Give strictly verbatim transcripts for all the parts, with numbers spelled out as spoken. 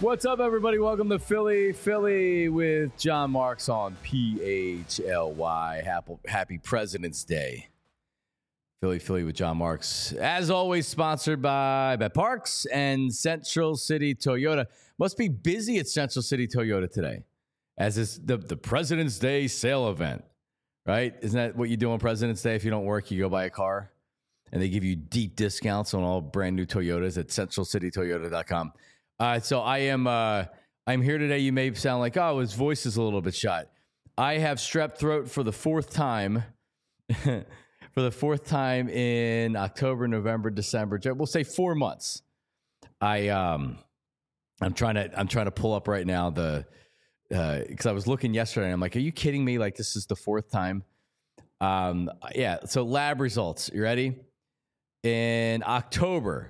What's up, everybody? Welcome to Philly, Philly with John Marks on P H L Y. Happy, happy President's Day. Philly, Philly with John Marks. As always, sponsored by BetParx and Central City Toyota. Must be busy at Central City Toyota today, as it's the, the President's Day sale event, right? Isn't that what you do on President's Day? If you don't work, you go buy a car, and they give you deep discounts on all brand new Toyotas at central city toyota dot com. Uh, so I am uh, I'm here today. You may sound like, oh, his voice is a little bit shot. I have strep throat for the fourth time, for the fourth time in October, November, December. We'll say four months. I um, I'm trying to I'm trying to pull up right now the because uh, I was looking yesterday and I'm like, are you kidding me? Like, this is the fourth time. Um, yeah. So lab results. You ready? In October.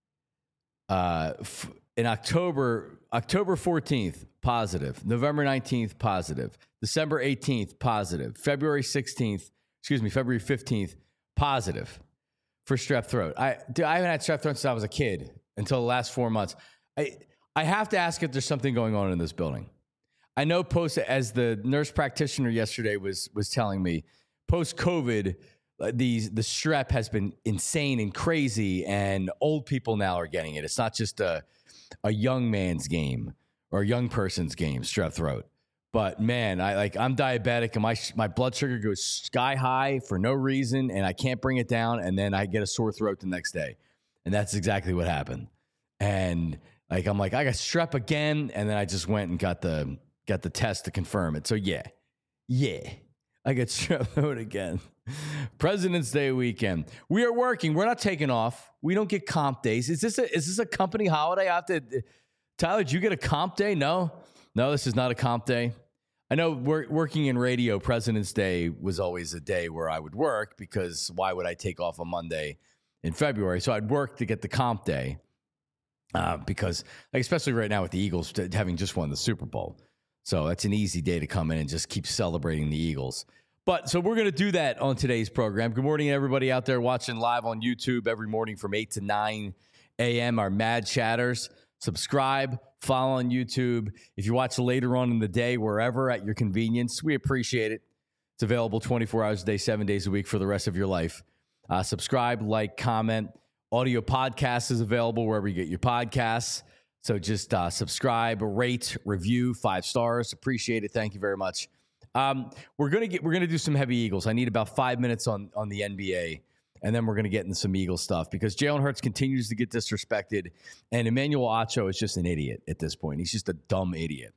Uh. F- In October, October fourteenth, positive. November nineteenth, positive. December eighteenth, positive. February sixteenth, excuse me, February fifteenth, positive for strep throat. I, dude, I haven't had strep throat since I was a kid until the last four months. I, I have to ask if there's something going on in this building. I know post, as the nurse practitioner yesterday was was telling me, post-COVID, these the strep has been insane and crazy, and old people now are getting it. It's not just a a young man's game or a young person's game, strep throat. But man, I like I'm diabetic and my my blood sugar goes sky high for no reason, and I can't bring it down, and then I get a sore throat the next day. And that's exactly what happened. And like I'm like, I got strep again, and then I just went and got the got the test to confirm it. So yeah. Yeah. I get strep throat again. President's Day weekend. We are working. We're not taking off. We don't get comp days. Is this a is this a company holiday? I have to, Tyler, did you get a comp day? No, no, this is not a comp day. I know we're working in radio. President's Day was always a day where I would work, because why would I take off on Monday in February? So I'd work to get the comp day uh, because, like, especially right now with the Eagles having just won the Super Bowl. So that's an easy day to come in and just keep celebrating the Eagles. But so we're going to do that on today's program. Good morning, everybody out there watching live on YouTube every morning from eight to nine a.m. Our Mad Chatters. Subscribe, follow on YouTube. If you watch later on in the day, wherever at your convenience, we appreciate it. It's available twenty-four hours a day, seven days a week for the rest of your life. Uh, subscribe, like, comment. Audio podcast is available wherever you get your podcasts. So just uh, subscribe, rate, review, five stars. Appreciate it. Thank you very much. Um, we're gonna get we're gonna do some heavy Eagles. I need about five minutes on on the N B A, and then we're gonna get into some Eagles stuff, because Jalen Hurts continues to get disrespected, and Emmanuel Acho is just an idiot at this point. He's just a dumb idiot.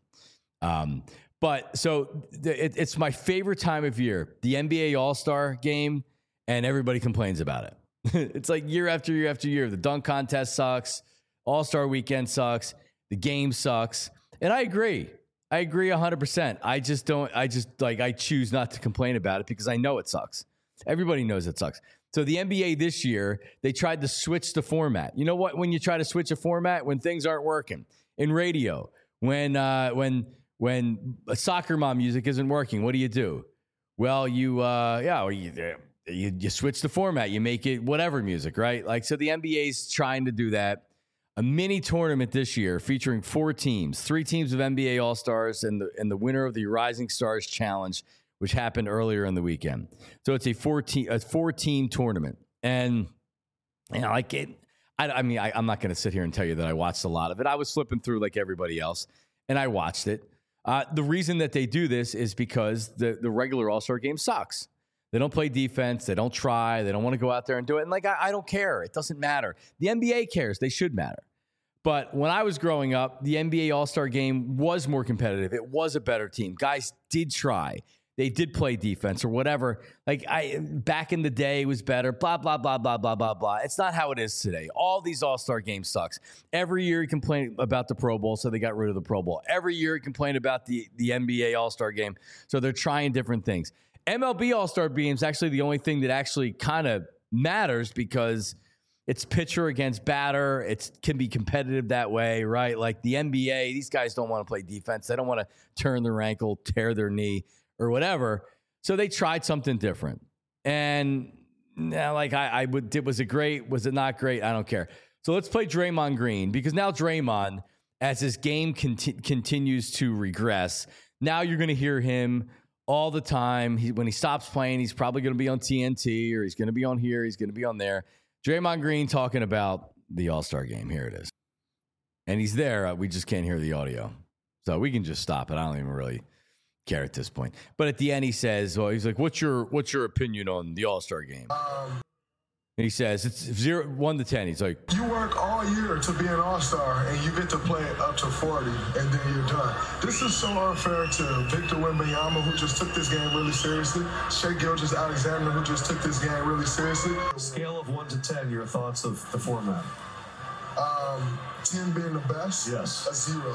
Um, but so th- it, it's my favorite time of year, the N B A All-Star game, and everybody complains about it. It's like year after year after year. The dunk contest sucks. All-Star weekend sucks. The game sucks. And I agree. I agree one hundred percent. I just don't, I just like, I choose not to complain about it because I know it sucks. Everybody knows it sucks. So the N B A this year, they tried to switch the format. You know what? When you try to switch a format, when things aren't working in radio, when, uh, when, when a soccer mom music isn't working, what do you do? Well, you, uh, yeah, or you, you, you switch the format, you make it whatever music, right? Like, so the N B A is trying to do that. A mini tournament this year featuring four teams, three teams of N B A All-Stars, and the and the winner of the Rising Stars Challenge, which happened earlier in the weekend. So it's a four team a four team tournament, and you know, like it. I, I mean, I, I'm not going to sit here and tell you that I watched a lot of it. I was flipping through like everybody else, and I watched it. Uh, the reason that they do this is because the the regular All-Star game sucks. They don't play defense. They don't try. They don't want to go out there and do it. And like, I, I don't care. It doesn't matter. The N B A cares. They should matter. But when I was growing up, the N B A All-Star game was more competitive. It was a better team. Guys did try. They did play defense or whatever. Like, I back in the day, it was better. Blah, blah, blah, blah, blah, blah, blah. It's not how it is today. All these All-Star games sucks. Every year you complain about the Pro Bowl, so they got rid of the Pro Bowl. Every year you complain about the, the N B A All-Star game, so they're trying different things. M L B All-Star game is actually the only thing that actually kind of matters, because it's pitcher against batter. It can be competitive that way, right? Like the N B A, these guys don't want to play defense. They don't want to turn their ankle, tear their knee, or whatever. So they tried something different. And now, like, I, I would, it was it great? Was it not great? I don't care. So let's play Draymond Green, because now Draymond as his game conti- continues to regress. Now you're going to hear him all the time. He, when he stops playing, he's probably going to be on T N T, or he's going to be on here, he's going to be on there. Draymond Green talking about the All-Star game. Here it is. And he's there. Uh, we just can't hear the audio. So we can just stop it. I don't even really care at this point. But at the end, he says, well, he's like, what's your what's your opinion on the All-Star game? Um, and he says, it's zero, one to ten. He's like, you work all year to be an all-star, and you get to play up to forty, and then you're done. This is so unfair to Victor Wembanyama, who just took this game really seriously, Shai Gilgeous-Alexander, who just took this game really seriously. Scale of one to ten, your thoughts of the format? Um, ten being the best? Yes. A zero.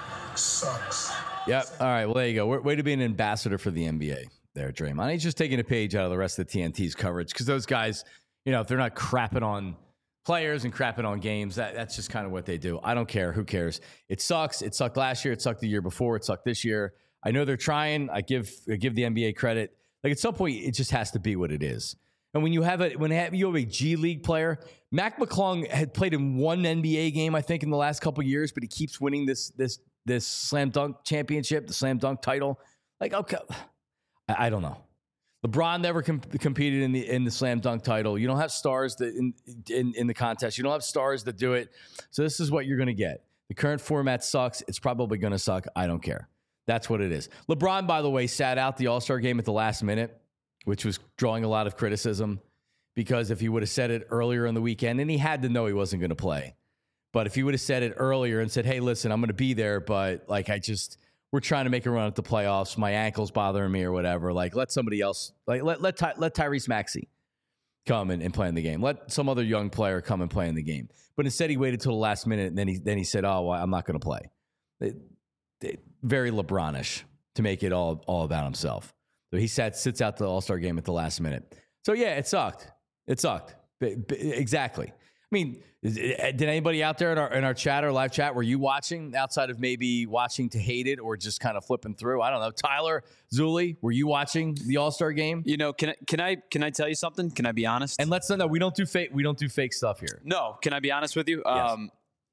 Sucks. yep. All right. Well, there you go. Way, way to be an ambassador for the N B A there, Draymond. He's just taking a page out of the rest of the T N T's coverage, because those guys, you know, if they're not crapping on players and crapping on games, that, that's just kind of what they do. I don't care. Who cares? It sucks. It sucked last year. It sucked the year before. It sucked this year. I know they're trying. I give I give the N B A credit. Like, at some point, it just has to be what it is. And when you have a when you have a G League player, Mac McClung had played in one N B A game, I think, in the last couple of years, but he keeps winning this this this slam dunk championship, the slam dunk title. Like, okay, I, I don't know. LeBron never com- competed in the in the slam dunk title. You don't have stars that in, in in the contest. You don't have stars that do it. So this is what you're going to get. The current format sucks. It's probably going to suck. I don't care. That's what it is. LeBron, by the way, sat out the All-Star game at the last minute, which was drawing a lot of criticism, because if he would have said it earlier in the weekend, and he had to know he wasn't going to play, but if he would have said it earlier and said, hey, listen, I'm going to be there, but like I just – we're trying to make a run at the playoffs. My ankle's bothering me or whatever. Like, let somebody else, like, let let Ty, let Tyrese Maxey come and, and play in the game. Let some other young player come and play in the game. But instead, he waited till the last minute, and then he then he said, "Oh, well, I'm not going to play." It, it, very LeBronish to make it all all about himself. So he sat sits out the All-Star game at the last minute. So yeah, it sucked. It sucked. B- b- exactly. I mean, is, did anybody out there in our in our chat or live chat, were you watching outside of maybe watching to hate it or just kind of flipping through? I don't know. Tyler, Zuli, were you watching the All-Star game? You know, can I can I can I tell you something? Can I be honest? And let's know, we don't do fake we don't do fake stuff here. No, can I be honest with you? Yes. Um,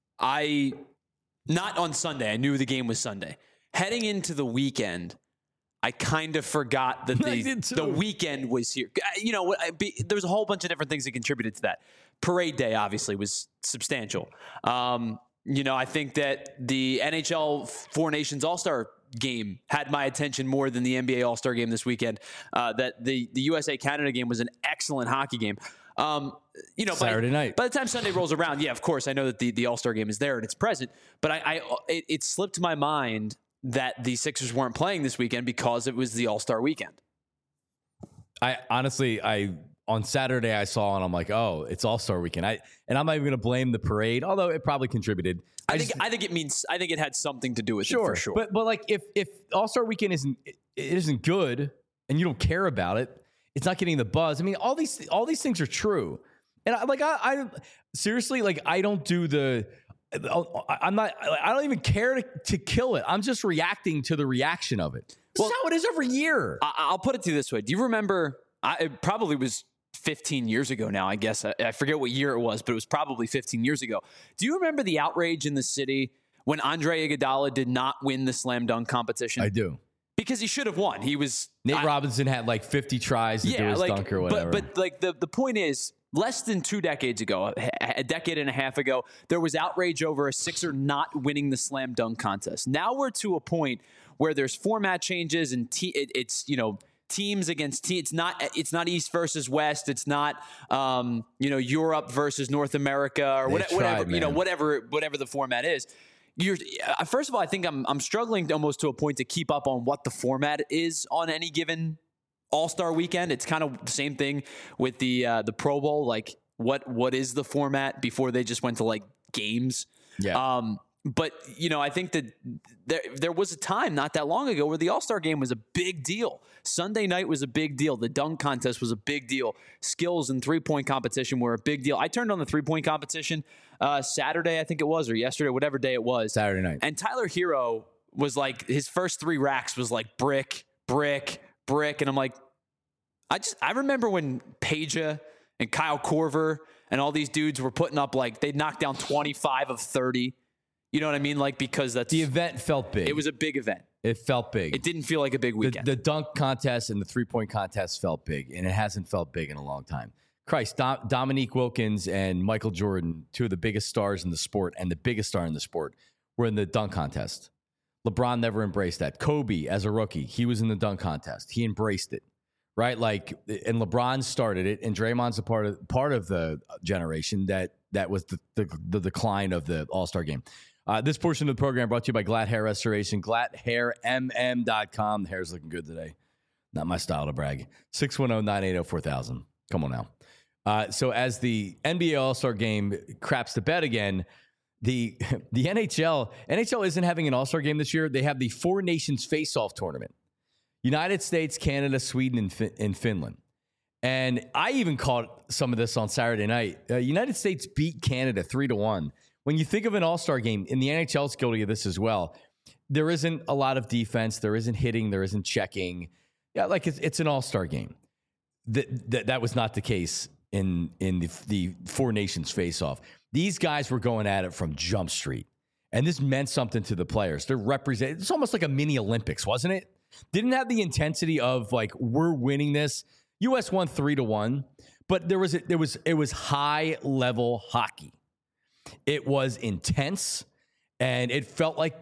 I not on Sunday. I knew the game was Sunday. Heading into the weekend, I kind of forgot that the the weekend was here. You know, there was a whole bunch of different things that contributed to that. Parade day obviously was substantial. Um, you know, I think that the N H L Four Nations All-Star game had my attention more than the N B A All-Star game this weekend. Uh, that the the U S A Canada game was an excellent hockey game. Um, you know, Saturday by, night. By the time Sunday rolls around, yeah, of course, I know that the, the All-Star game is there and it's present. But I, I it, it slipped my mind that the Sixers weren't playing this weekend because it was the All-Star weekend. I honestly, I on Saturday I saw and I'm like, oh, it's All-Star weekend. I and I'm not even going to blame the parade, although it probably contributed. I, I think just, I think it means I think it had something to do with sure, it for sure. But but like if if All-Star weekend isn't it isn't good and you don't care about it, it's not getting the buzz. I mean, all these all these things are true. And I, like I, I seriously like I don't do the I'm not I don't even care to, to kill it. I'm just reacting to the reaction of it. This well, is how it is every year. I, I'll put it to you this way. Do you remember I, it probably was fifteen years ago now, I guess. I, I forget what year it was, but it was probably fifteen years ago. Do you remember the outrage in the city when Andre Iguodala did not win the slam dunk competition? I do. Because he should have won. He was Nate I, Robinson had like fifty tries to yeah, do his like, dunk or whatever. But, but like the, the point is, less than two decades ago, a decade and a half ago, there was outrage over a Sixer not winning the slam dunk contest. Now we're to a point where there's format changes and te- it, it's, you know, teams against teams. It's not, it's not East versus West. It's not, um, you know, Europe versus North America or They whatever, tried, whatever you know, man. whatever, whatever the format is. You're, uh, first of all, I think I'm, I'm struggling almost to a point to keep up on what the format is on any given All-Star weekend. It's kind of the same thing with the uh, the Pro Bowl. Like, what what is the format before they just went to like games? Yeah. Um, but you know, I think that there there was a time not that long ago where the All-Star game was a big deal. Sunday night was a big deal. The dunk contest was a big deal. Skills and three-point competition were a big deal. I turned on the three-point competition uh, Saturday, I think it was, or yesterday, whatever day it was. Saturday night. And Tyler Hero was like, his first three racks was like brick, brick, brick. And I'm like, I just, I remember when Peja and Kyle Korver and all these dudes were putting up like, they'd knock down twenty-five of thirty. You know what I mean? Like, because that's the event felt big. It was a big event. It felt big. It didn't feel like a big weekend. The, the dunk contest and the three-point contest felt big, and it hasn't felt big in a long time. Christ, Dom, Dominique Wilkins and Michael Jordan, two of the biggest stars in the sport and the biggest star in the sport, were in the dunk contest. LeBron never embraced that. Kobe, as a rookie, he was in the dunk contest. He embraced it, right? Like, and LeBron started it, and Draymond's a part of part of the generation that that was the the, the decline of the All-Star game. Uh, this portion of the program brought to you by Glatt Hair Restoration, glatt hair m m dot com. The hair's looking good today. Not my style to brag. six one zero, nine eight zero, four thousand. Come on now. Uh, so as the N B A All-Star game craps to bed again, the the N H L N H L isn't having an All-Star game this year. They have the Four Nations Face-Off tournament. United States, Canada, Sweden, and, fin- and Finland. And I even caught some of this on Saturday night. Uh, United States beat Canada three to one. When you think of an All-Star game, in the N H L is guilty of this as well. There isn't a lot of defense. There isn't hitting. There isn't checking. Yeah, like it's, it's an All-Star game. That, that that was not the case in in the, the Four Nations face-off. These guys were going at it from Jump Street, and this meant something to the players. They're represent. It's almost like a mini Olympics, wasn't it? Didn't have the intensity of like we're winning this. U S won three to one, but there was a, there was it was high level hockey. It was intense, and it felt like,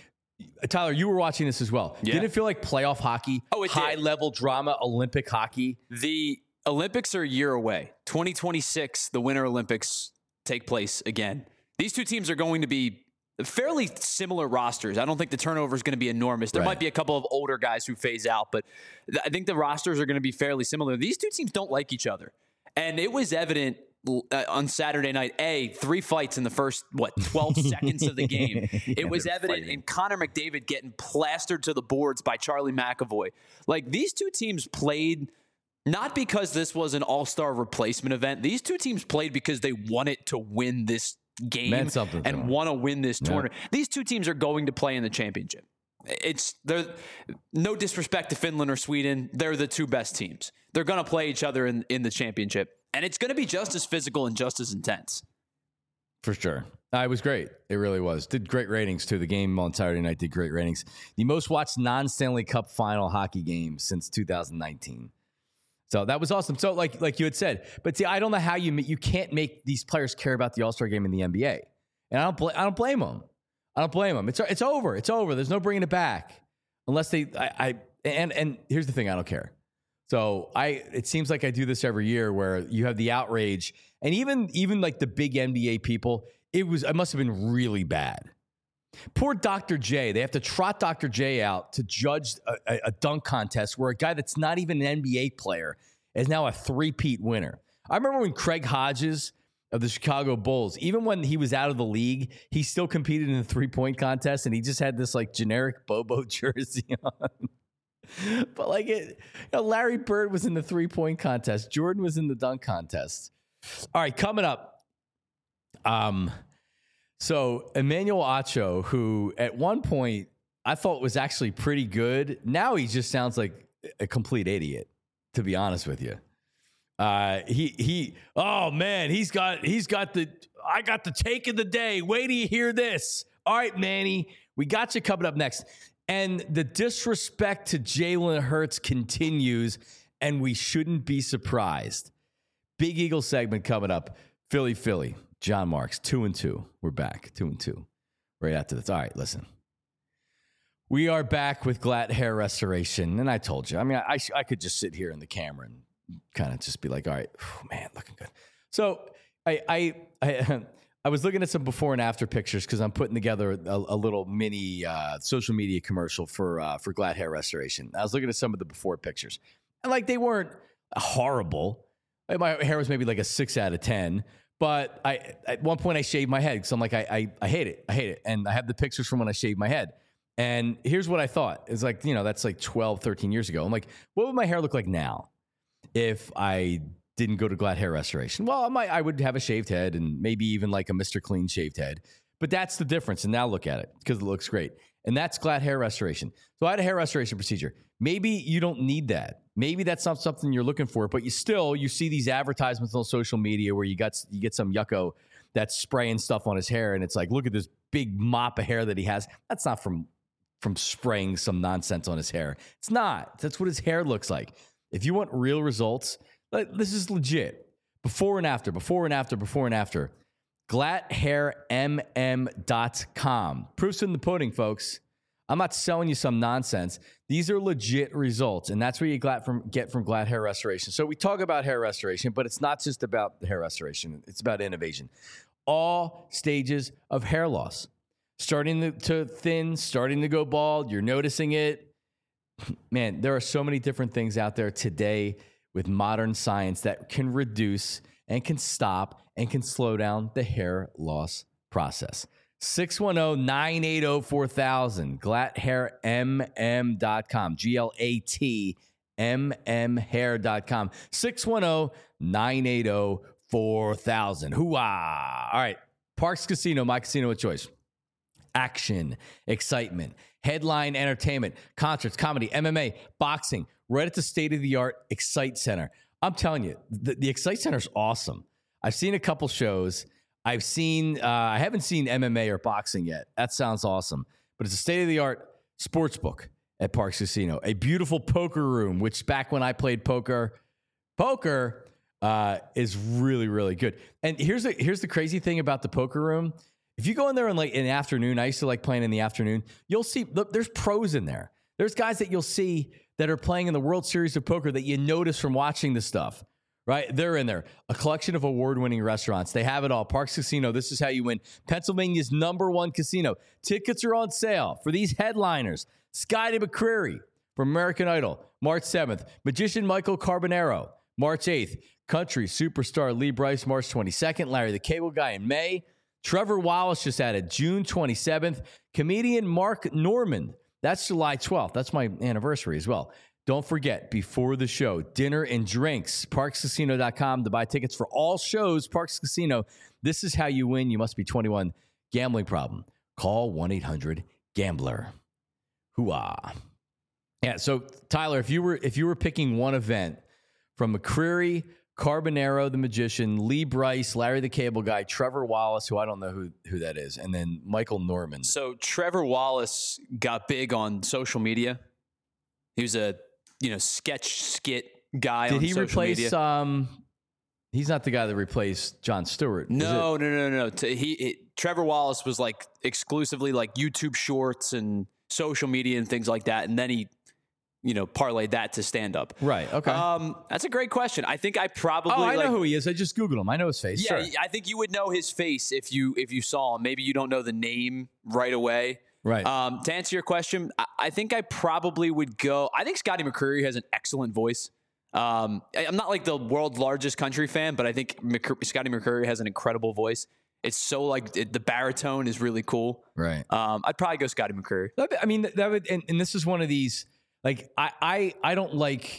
Tyler, you were watching this as well. Yeah. Did it feel like playoff hockey? Oh, it high did. level drama, Olympic hockey? The Olympics are a year away. twenty twenty-six, the Winter Olympics take place again. These two teams are going to be fairly similar rosters. I don't think the turnover is going to be enormous. There Right. might be a couple of older guys who phase out, but th- I think the rosters are going to be fairly similar. These two teams don't like each other. And it was evident uh, on Saturday night, A, three fights in the first, what, twelve seconds of the game. It Yeah, was they're evident fighting. in Connor McDavid getting plastered to the boards by Charlie McAvoy. Like, these two teams played not because this was an all-star replacement event. These two teams played because they wanted to win this game Meant something to and them. want to win this Yeah. tournament. These two teams are going to play in the championship. It's they're no disrespect to Finland or Sweden. They're the two best teams. They're going to play each other in, in the championship. And it's going to be just as physical and just as intense. For sure. Uh, it was great. It really was. Did great ratings, too. The game on Saturday night did great ratings. The most watched non-Stanley Cup final hockey game since two thousand nineteen. So that was awesome. So like like you had said, but see, I don't know how you you can't make these players care about the All-Star game in the N B A. And I don't bl- I don't blame them. I don't blame them. It's it's over. It's over. There's no bringing it back unless they I, I and and here's the thing, I don't care. So I, it seems like I do this every year where you have the outrage, and even even like the big N B A people, it was it must have been really bad. Poor Doctor J. They have to trot Doctor J out to judge a, a, a dunk contest where a guy that's not even an N B A player is now a three-peat winner. I remember when Craig Hodges of the Chicago Bulls, even when he was out of the league, he still competed in the three-point contest, and he just had this like generic Bobo jersey on. But like it, you know, Larry Bird was in the three-point contest. Jordan was in the dunk contest. All right, coming up. Um, so Emmanuel Acho, who at one point I thought was actually pretty good, now he just sounds like a complete idiot, to be honest with you. Uh, he he. Oh man, he's got he's got the. I got the take of the day. Wait till you hear this. All right, Manny, we got you coming up next. And the disrespect to Jalen Hurts continues, and we shouldn't be surprised. Big Eagle segment coming up. Philly, Philly. John Marks, two and two. We're back, two and two. Right after this. All right, listen. We are back with Glatt Hair Restoration, and I told you. I mean, I I could just sit here in the camera and kind of just be like, all right, oh, man, looking good. So I I I. I was looking at some before and after pictures because I'm putting together a, a little mini uh, social media commercial for uh, for Glatt Hair Restoration. I was looking at some of the before pictures, and like they weren't horrible. Like, my hair was maybe like a six out of ten. But I at one point I shaved my head because I'm like I, I I hate it, I hate it, and I have the pictures from when I shaved my head. And here's what I thought: it's like, you know, that's like twelve, thirteen years ago. I'm like, what would my hair look like now if I didn't go to Glatt Hair Restoration? Well, I might, I would have a shaved head and maybe even like a Mister Clean shaved head. But that's the difference. And now look at it because it looks great. And that's Glatt Hair Restoration. So I had a hair restoration procedure. Maybe you don't need that. Maybe that's not something you're looking for, but you still, you see these advertisements on social media where you got, you get some yucko that's spraying stuff on his hair. And it's like, look at this big mop of hair that he has, that's not from from spraying some nonsense on his hair. It's not. That's what his hair looks like. If you want real results, like, this is legit. Before and after, before and after, before and after. glatt hair m m dot com. Proof's in the pudding, folks. I'm not selling you some nonsense. These are legit results, and that's what you get from, get from Glatt Hair Restoration. So we talk about hair restoration, but it's not just about the hair restoration. It's about innovation. All stages of hair loss. Starting to, to thin, starting to go bald. You're noticing it. Man, there are so many different things out there today with modern science that can reduce and can stop and can slow down the hair loss process. six one zero, nine eight zero, four thousand. glatt hair m m dot com. G L A T M M hair dot com. six one zero, nine eight zero, four thousand. Hoo-ah. All right. Parx Casino, my casino of choice. Action, excitement, headline entertainment, concerts, comedy, M M A, boxing, right at the state-of-the-art Excite Center. I'm telling you, the, the Excite Center is awesome. I've seen a couple shows. I've seen, uh, I haven't seen M M A or boxing yet. That sounds awesome. But it's a state-of-the-art sports book at Parx Casino. A beautiful poker room, which back when I played poker, poker uh, is really, really good. And here's the, here's the crazy thing about the poker room. If you go in there in like in the afternoon, I used to like playing in the afternoon, you'll see, look, there's pros in there. There's guys that you'll see that are playing in the World Series of Poker that you notice from watching the stuff. Right? They're in there. A collection of award-winning restaurants. They have it all. Parx Casino, this is how you win. Pennsylvania's number one casino. Tickets are on sale for these headliners. Scotty McCreery from American Idol, March seventh. Magician Michael Carbonaro, March eighth. Country superstar Lee Brice, March twenty-second. Larry the Cable Guy in May. Trevor Wallace just added June twenty-seventh. Comedian Mark Norman. That's July twelfth. That's my anniversary as well. Don't forget, before the show, dinner and drinks. parx casino dot com to buy tickets for all shows. Parx Casino. This is how you win. You must be twenty-one. Gambling problem. Call one eight hundred gambler. Hoo-ah. Yeah, so Tyler, if you were if you were picking one event from McCreery, Carbonaro, the Magician, Lee Brice, Larry the Cable Guy, Trevor Wallace, who I don't know who, who that is, and then Michael Norman. So Trevor Wallace got big on social media. He was a you know sketch skit guy. Did on he social replace? Media. Um, he's not the guy that replaced Jon Stewart. No, no, no, no. To, he it, Trevor Wallace was like exclusively like YouTube Shorts and social media and things like that, and then he. You know, parlayed that to stand up. Right. Okay. Um, that's a great question. I think I probably. Oh, I like, know who he is. I just Googled him. I know his face. Yeah, sure. I think you would know his face if you if you saw him. Maybe you don't know the name right away. Right. Um, to answer your question, I, I think I probably would go. I think Scotty McCreery has an excellent voice. Um, I, I'm not like the world's largest country fan, but I think McC- Scotty McCreery has an incredible voice. It's so like it, the baritone is really cool. Right. Um, I'd probably go Scotty McCreery. I mean, that would, and, and this is one of these. Like, I, I, I don't like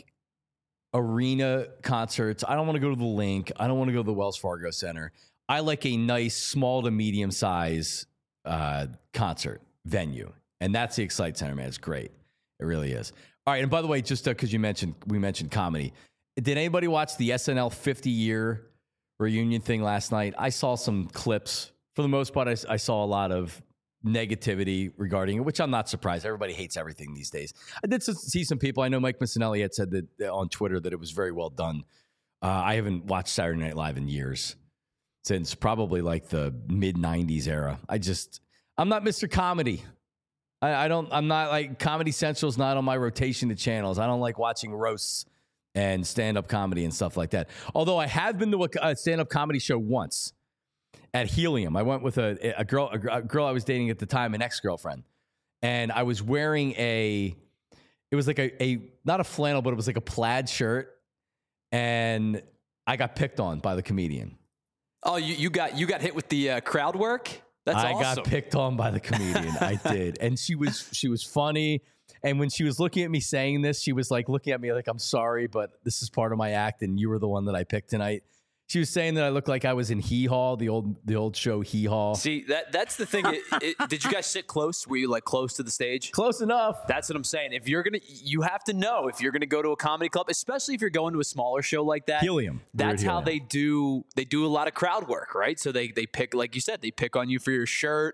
arena concerts. I don't want to go to the Link. I don't want to go to the Wells Fargo Center. I like a nice small to medium size uh, concert venue. And that's the Excite Center, man. It's great. It really is. All right. And by the way, just because uh, you mentioned, we mentioned comedy. Did anybody watch the S N L fifty year reunion thing last night? I saw some clips. For the most part, I, I saw a lot of negativity regarding it, which I'm not surprised. Everybody hates everything these days. I did see some people. I know Mike Missinelli had said that on Twitter that it was very well done. Uh, I haven't watched Saturday Night Live in years, since probably like the mid nineties era. I just, I'm not Mister Comedy. I, I don't, I'm not like Comedy Central's not on my rotation to channels. I don't like watching roasts and stand-up comedy and stuff like that. Although I have been to a stand-up comedy show once. At Helium, I went with a, a girl, a girl I was dating at the time, an ex-girlfriend, and I was wearing a, it was like a, a not a flannel, but it was like a plaid shirt, and I got picked on by the comedian. Oh, you, you got you got hit with the uh, crowd work? That's I awesome. got picked on by the comedian. I did, and she was she was funny. And when she was looking at me saying this, she was like looking at me like, "I'm sorry, but this is part of my act, and you were the one that I picked tonight." She was saying that I looked like I was in Hee Haw, the old the old show Hee Haw. See, that that's the thing. It, it, did you guys sit close? Were you like close to the stage? Close enough. That's what I'm saying. If you're gonna, you have to know if you're gonna go to a comedy club, especially if you're going to a smaller show like that. Helium. That's how Helium. they do. They do a lot of crowd work, right? So they they pick, like you said, they pick on you for your shirt,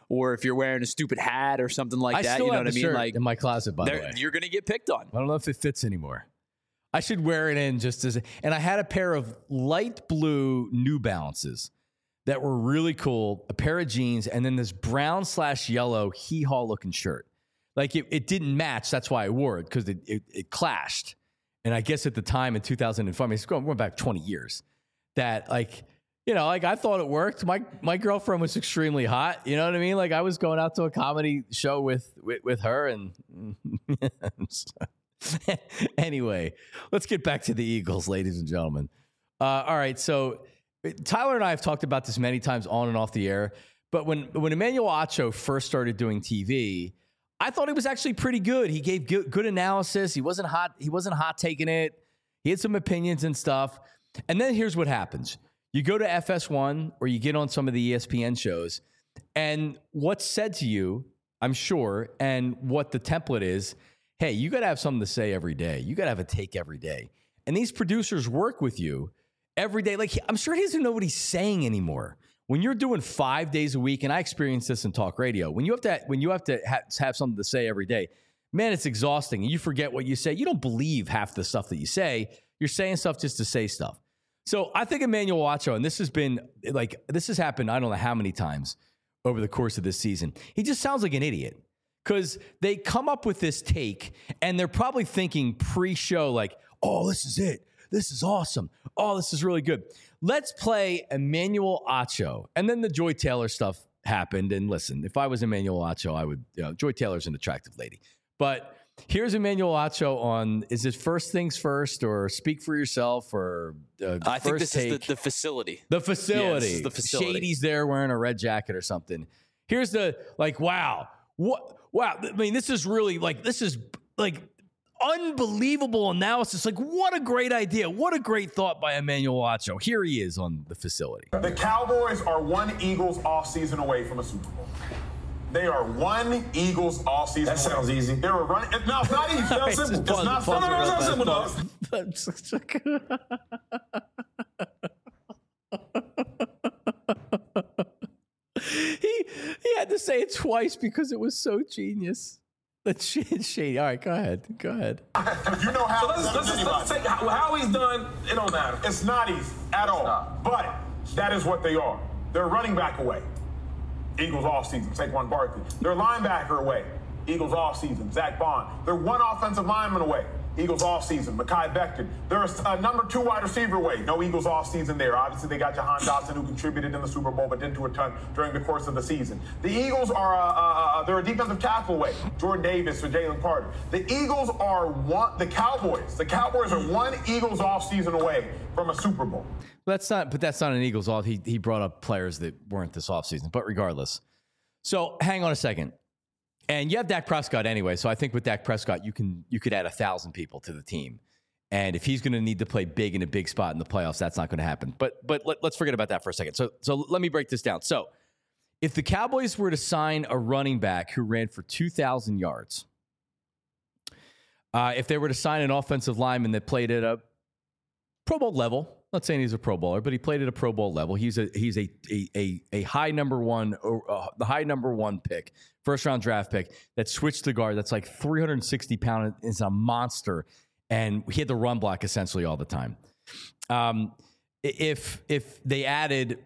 or if you're wearing a stupid hat or something like I that. Still you know have what I the mean? shirt Like in my closet, by the way. You're going to get picked on. I don't know if it fits anymore. I should wear it in just as. And I had a pair of light blue New Balances that were really cool, a pair of jeans, and then this brown slash yellow hee-haw looking shirt. Like it, it didn't match. That's why I wore it, because it, it, it clashed. And I guess at the time in two thousand four, I mean, it's going, going back twenty years, that like, you know, like I thought it worked. My my girlfriend was extremely hot. You know what I mean? Like I was going out to a comedy show with with, with her. And anyway, let's get back to the Eagles, ladies and gentlemen. Uh, all right. So Tyler and I have talked about this many times on and off the air. But when, when Emmanuel Acho first started doing T V, I thought he was actually pretty good. He gave good, good analysis. He wasn't hot. He wasn't hot taking it. He had some opinions and stuff. And then here's what happens. You go to F S one or you get on some of the E S P N shows, and what's said to you, I'm sure, and what the template is, hey, you got to have something to say every day. You got to have a take every day. And these producers work with you every day. Like, I'm sure he doesn't know what he's saying anymore. When you're doing five days a week, and I experience this in talk radio, when you have to when you have to ha- have something to say every day, man, it's exhausting. You forget what you say. You don't believe half the stuff that you say. You're saying stuff just to say stuff. So I think Emmanuel Acho, and this has been like this has happened I don't know how many times over the course of this season. He just sounds like an idiot, because they come up with this take, and they're probably thinking pre-show like, "Oh, this is it. This is awesome. Oh, this is really good. Let's play Emmanuel Acho." And then the Joy Taylor stuff happened. And listen, if I was Emmanuel Acho, I would, you know, Joy Taylor's an attractive lady. But here's Emmanuel Acho on, is it First Things First or Speak for Yourself or uh, I First think this Take? is the, the facility. The facility. Yeah, this is the facility. Shady's there wearing a red jacket or something. Here's the, like, wow. What? Wow. I mean, this is really like, this is like, unbelievable analysis. Like, what a great idea. What a great thought by Emmanuel Acho. Here he is on the facility. The Cowboys are one Eagles offseason away from a Super Bowl. They are one Eagles offseason That sounds away. easy. They were running. No, it's not easy. It's not simple. It's not simple. No, no, it's not simple, dog. he, he had to say it twice because it was so genius. That's shady. All right, go ahead. Go ahead. You know how. So let's, let's, just, let's take how, how he's done. It don't matter. It's not easy at all. not. But that is what they are. They're running back away. Eagles offseason. Saquon Barkley. They're linebacker away. Eagles offseason. Zach Bond. They're one offensive lineman away. Eagles offseason. Mekhi Becton. They're a number two wide receiver away. No Eagles offseason there. Obviously, they got Jahan Dotson, who contributed in the Super Bowl, but didn't do a ton during the course of the season. The Eagles are uh, uh, they're a defensive tackle away. Jordan Davis or Jalen Carter. The Eagles are one. The Cowboys. The Cowboys are one Eagles offseason away from a Super Bowl. That's not. But that's not an Eagles off. He he brought up players that weren't this offseason. But regardless, so hang on a second. And you have Dak Prescott anyway, so I think with Dak Prescott, you can you could add a thousand people to the team, and if he's going to need to play big in a big spot in the playoffs, that's not going to happen. But but let, let's forget about that for a second. So so let me break this down. So if the Cowboys were to sign a running back who ran for two thousand yards, uh, if they were to sign an offensive lineman that played at a Pro Bowl level. Not saying he's a Pro Bowler, but he played at a Pro Bowl level. He's a he's a a a, a high number one, uh, the high number one pick, first round draft pick that switched to guard. That's like three hundred sixty pounds. Is a monster, and he had to run block essentially all the time. Um, if if they added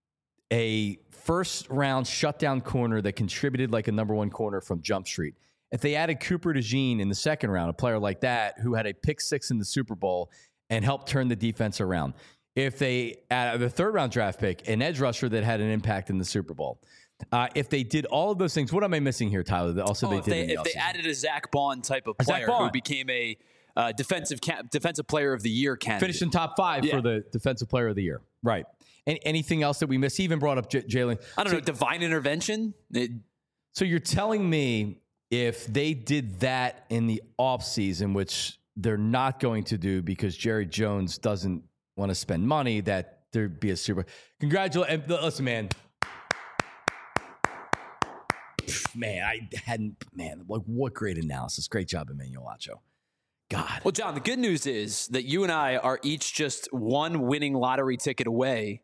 a first round shutdown corner that contributed like a number one corner from Jump Street, if they added Cooper DeJean in the second round, a player like that who had a pick six in the Super Bowl and helped turn the defense around. If they add the third round draft pick, an edge rusher that had an impact in the Super Bowl. Uh, if they did all of those things, what am I missing here, Tyler? That also oh, they if did. They, in the if they added a Zach Bond type of player who became a uh, defensive ca- defensive player of the year candidate, finished in top five yeah. for the defensive player of the year, right? And anything else that we missed? He even brought up J- Jalen. I don't so, know, divine intervention. It, so you're telling me if they did that in the offseason, which they're not going to do because Jerry Jones doesn't want to spend money, that there'd be a super congratulations. Listen, man, man, I hadn't, man, like what great analysis. Great job, Emmanuel Acho. God. Well, John, the good news is that you and I are each just one winning lottery ticket away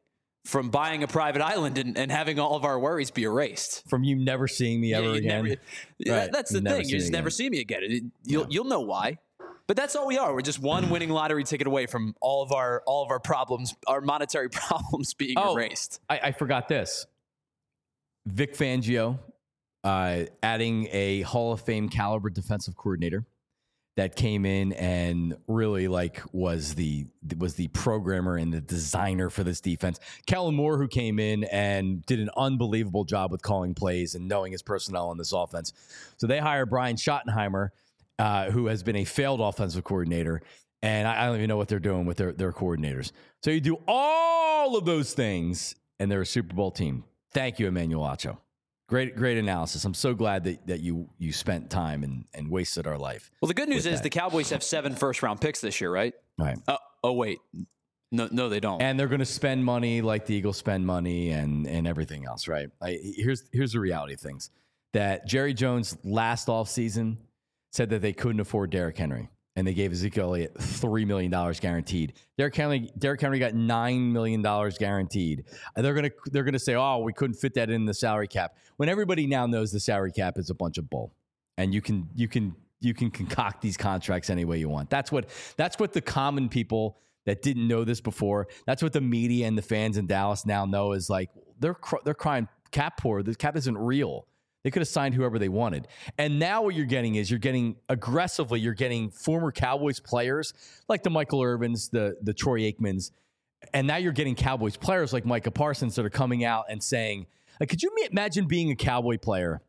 from buying a private island and, and having all of our worries be erased. From you never seeing me ever yeah, again. Never, right. That's the thing. You just never see me again. It, you'll, yeah. you'll know why. But that's all we are. We're just one winning lottery ticket away from all of our all of our problems, our monetary problems being oh, erased. I, I forgot this. Vic Fangio uh, adding a Hall of Fame caliber defensive coordinator that came in and really like was the was the programmer and the designer for this defense. Kellen Moore, who came in and did an unbelievable job with calling plays and knowing his personnel on this offense. So they hire Brian Schottenheimer, uh, who has been a failed offensive coordinator. And I, I don't even know what they're doing with their, their coordinators. So you do all of those things, and they're a Super Bowl team. Thank you, Emmanuel Acho. Great, great analysis. I'm so glad that, that you you spent time and, and wasted our life. Well, the good news is that. The Cowboys have seven first round picks this year, right? Right. Uh, oh wait, no, no, they don't. And they're going to spend money like the Eagles spend money and and everything else, right? I, here's here's the reality of things: that Jerry Jones last offseason said that they couldn't afford Derrick Henry, and they gave Ezekiel Elliott three million dollars guaranteed. Derrick Henry, Derrick Henry got nine million dollars guaranteed. And they're gonna they're gonna say, oh, we couldn't fit that in the salary cap. When everybody now knows the salary cap is a bunch of bull, and you can you can you can concoct these contracts any way you want. That's what that's what the common people that didn't know this before. That's what the media and the fans in Dallas now know is like they're they're crying cap poor. The cap isn't real. They could have signed whoever they wanted. And now what you're getting is you're getting aggressively, you're getting former Cowboys players like the Michael Irvins, the, the Troy Aikmans. And now you're getting Cowboys players like Micah Parsons that are coming out and saying, like, could you imagine being a Cowboy player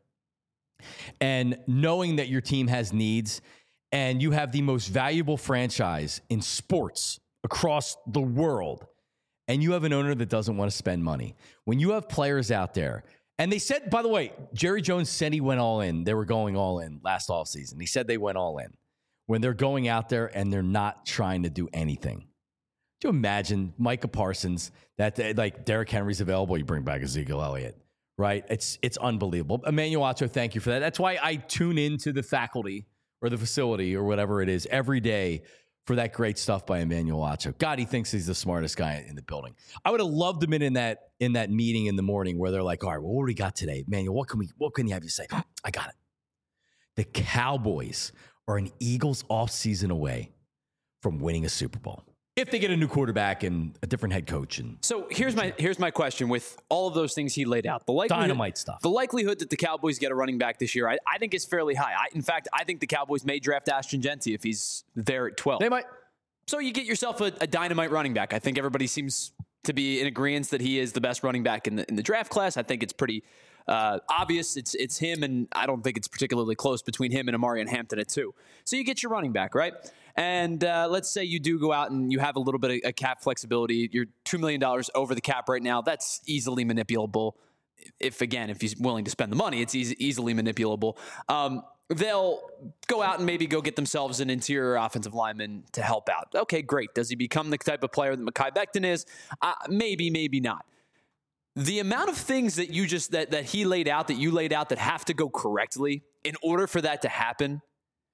and knowing that your team has needs and you have the most valuable franchise in sports across the world and you have an owner that doesn't want to spend money? When you have players out there, and they said, by the way, Jerry Jones said he went all in. They were going all in last offseason. He said they went all in. When they're going out there and they're not trying to do anything. Do you imagine Micah Parsons, that like Derrick Henry's available, you bring back Ezekiel Elliott, right? It's it's unbelievable. Emmanuel Acho, thank you for that. That's why I tune into the faculty or the facility or whatever it is every day for that great stuff by Emmanuel Acho. God, he thinks he's the smartest guy in the building. I would have loved him in that in that meeting in the morning where they're like, all right, well, what do we got today? Emmanuel, what can we what can you have you say? I got it. The Cowboys are an Eagles offseason away from winning a Super Bowl. If they get a new quarterback and a different head coach. And so here's my here's my question with all of those things he laid out. The likelihood, dynamite stuff. The likelihood that the Cowboys get a running back this year, I, I think is fairly high. I, in fact, I think the Cowboys may draft Ashton Jeanty if he's there at twelve. They might. So you get yourself a, a dynamite running back. I think everybody seems to be in agreement that he is the best running back in the in the draft class. I think it's pretty uh, obvious. It's it's him, and I don't think it's particularly close between him and Amarian Hampton at two. So you get your running back, right? And uh, let's say you do go out and you have a little bit of a cap flexibility. You're two million dollars over the cap right now. That's easily manipulable. If, again, if he's willing to spend the money, it's easy, easily manipulable. Um, they'll go out and maybe go get themselves an interior offensive lineman to help out. Okay, great. Does he become the type of player that Mekhi Becton is? Uh, maybe, maybe not. The amount of things that you just that that he laid out, that you laid out, that have to go correctly in order for that to happen,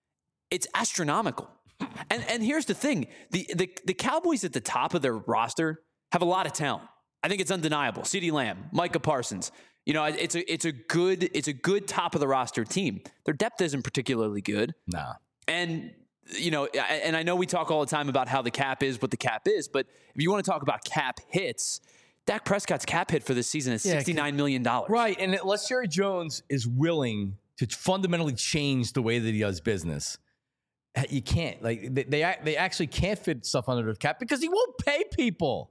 it's astronomical. And and here's the thing. The, the the Cowboys at the top of their roster have a lot of talent. I think it's undeniable. CeeDee Lamb, Micah Parsons. You know, it's a it's a good it's a good top of the roster team. Their depth isn't particularly good. Nah. And you know, and I know we talk all the time about how the cap is what the cap is, but if you want to talk about cap hits, Dak Prescott's cap hit for this season is sixty-nine million dollars. Right, and unless Jerry Jones is willing to fundamentally change the way that he does business, you can't. Like they, they they actually can't fit stuff under the cap because he won't pay people.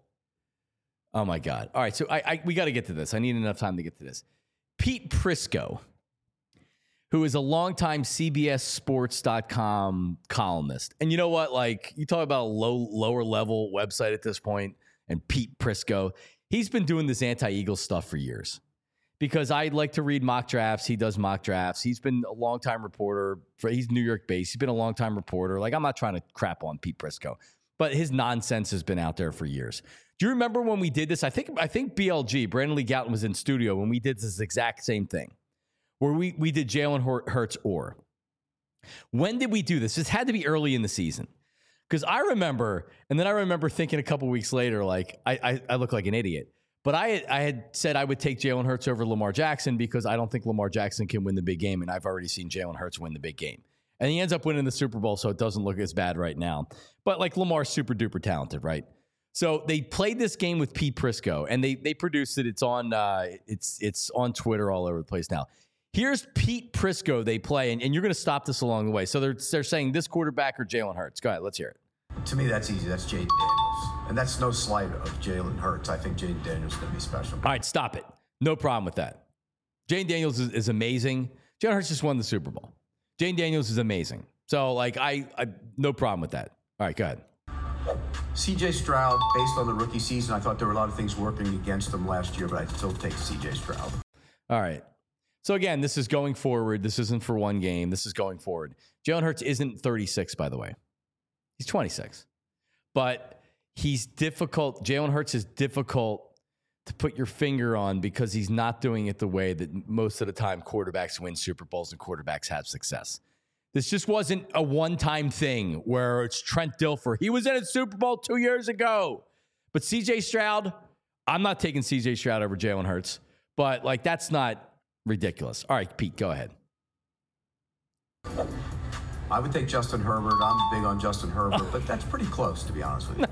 Oh my God! All right, so I, I we got to get to this. I need enough time to get to this. Pete Prisco, who is a longtime C B S Sports dot com columnist, and you know what? Like you talk about a low lower level website at this point, and Pete Prisco, he's been doing this anti-Eagles stuff for years. Because I like to read mock drafts. He does mock drafts. He's been a longtime reporter. For, he's New York based. He's been a longtime reporter. Like, I'm not trying to crap on Pete Prisco, but his nonsense has been out there for years. Do you remember when we did this? I think I think B L G, Brandon Lee Gowton, was in studio when we did this exact same thing, where we, we did Jalen Hurts or. When did we do this? This had to be early in the season. Because I remember, and then I remember thinking a couple weeks later, like, I, I, I look like an idiot. But I, I had said I would take Jalen Hurts over Lamar Jackson because I don't think Lamar Jackson can win the big game, and I've already seen Jalen Hurts win the big game. And he ends up winning the Super Bowl, so it doesn't look as bad right now. But, like, Lamar's super-duper talented, right? So they played this game with Pete Prisco, and they they produced it. It's on uh, it's it's on Twitter all over the place now. Here's Pete Prisco they play, and, and you're going to stop this along the way. So they're, they're saying this quarterback or Jalen Hurts. Go ahead, let's hear it. To me, that's easy. That's Jaden Daniels. And that's no slight of Jalen Hurts. I think Jaden Daniels is going to be special. All right, stop it. No problem with that. Jaden Daniels is, is amazing. Jalen Hurts just won the Super Bowl. Jaden Daniels is amazing. So, like, I, I no problem with that. All right, go ahead. C J Stroud, based on the rookie season, I thought there were a lot of things working against him last year, but I'd still take C J Stroud. All right. So, again, this is going forward. This isn't for one game. This is going forward. Jalen Hurts isn't thirty-six, by the way. He's twenty-six. But he's difficult. Jalen Hurts is difficult to put your finger on because he's not doing it the way that most of the time quarterbacks win Super Bowls and quarterbacks have success. This just wasn't a one-time thing where it's Trent Dilfer. He was in a Super Bowl two years ago. But C J Stroud, I'm not taking C J Stroud over Jalen Hurts. But, like, that's not ridiculous. All right, Pete, go ahead. I would take Justin Herbert. I'm big on Justin Herbert, but that's pretty close, to be honest with you.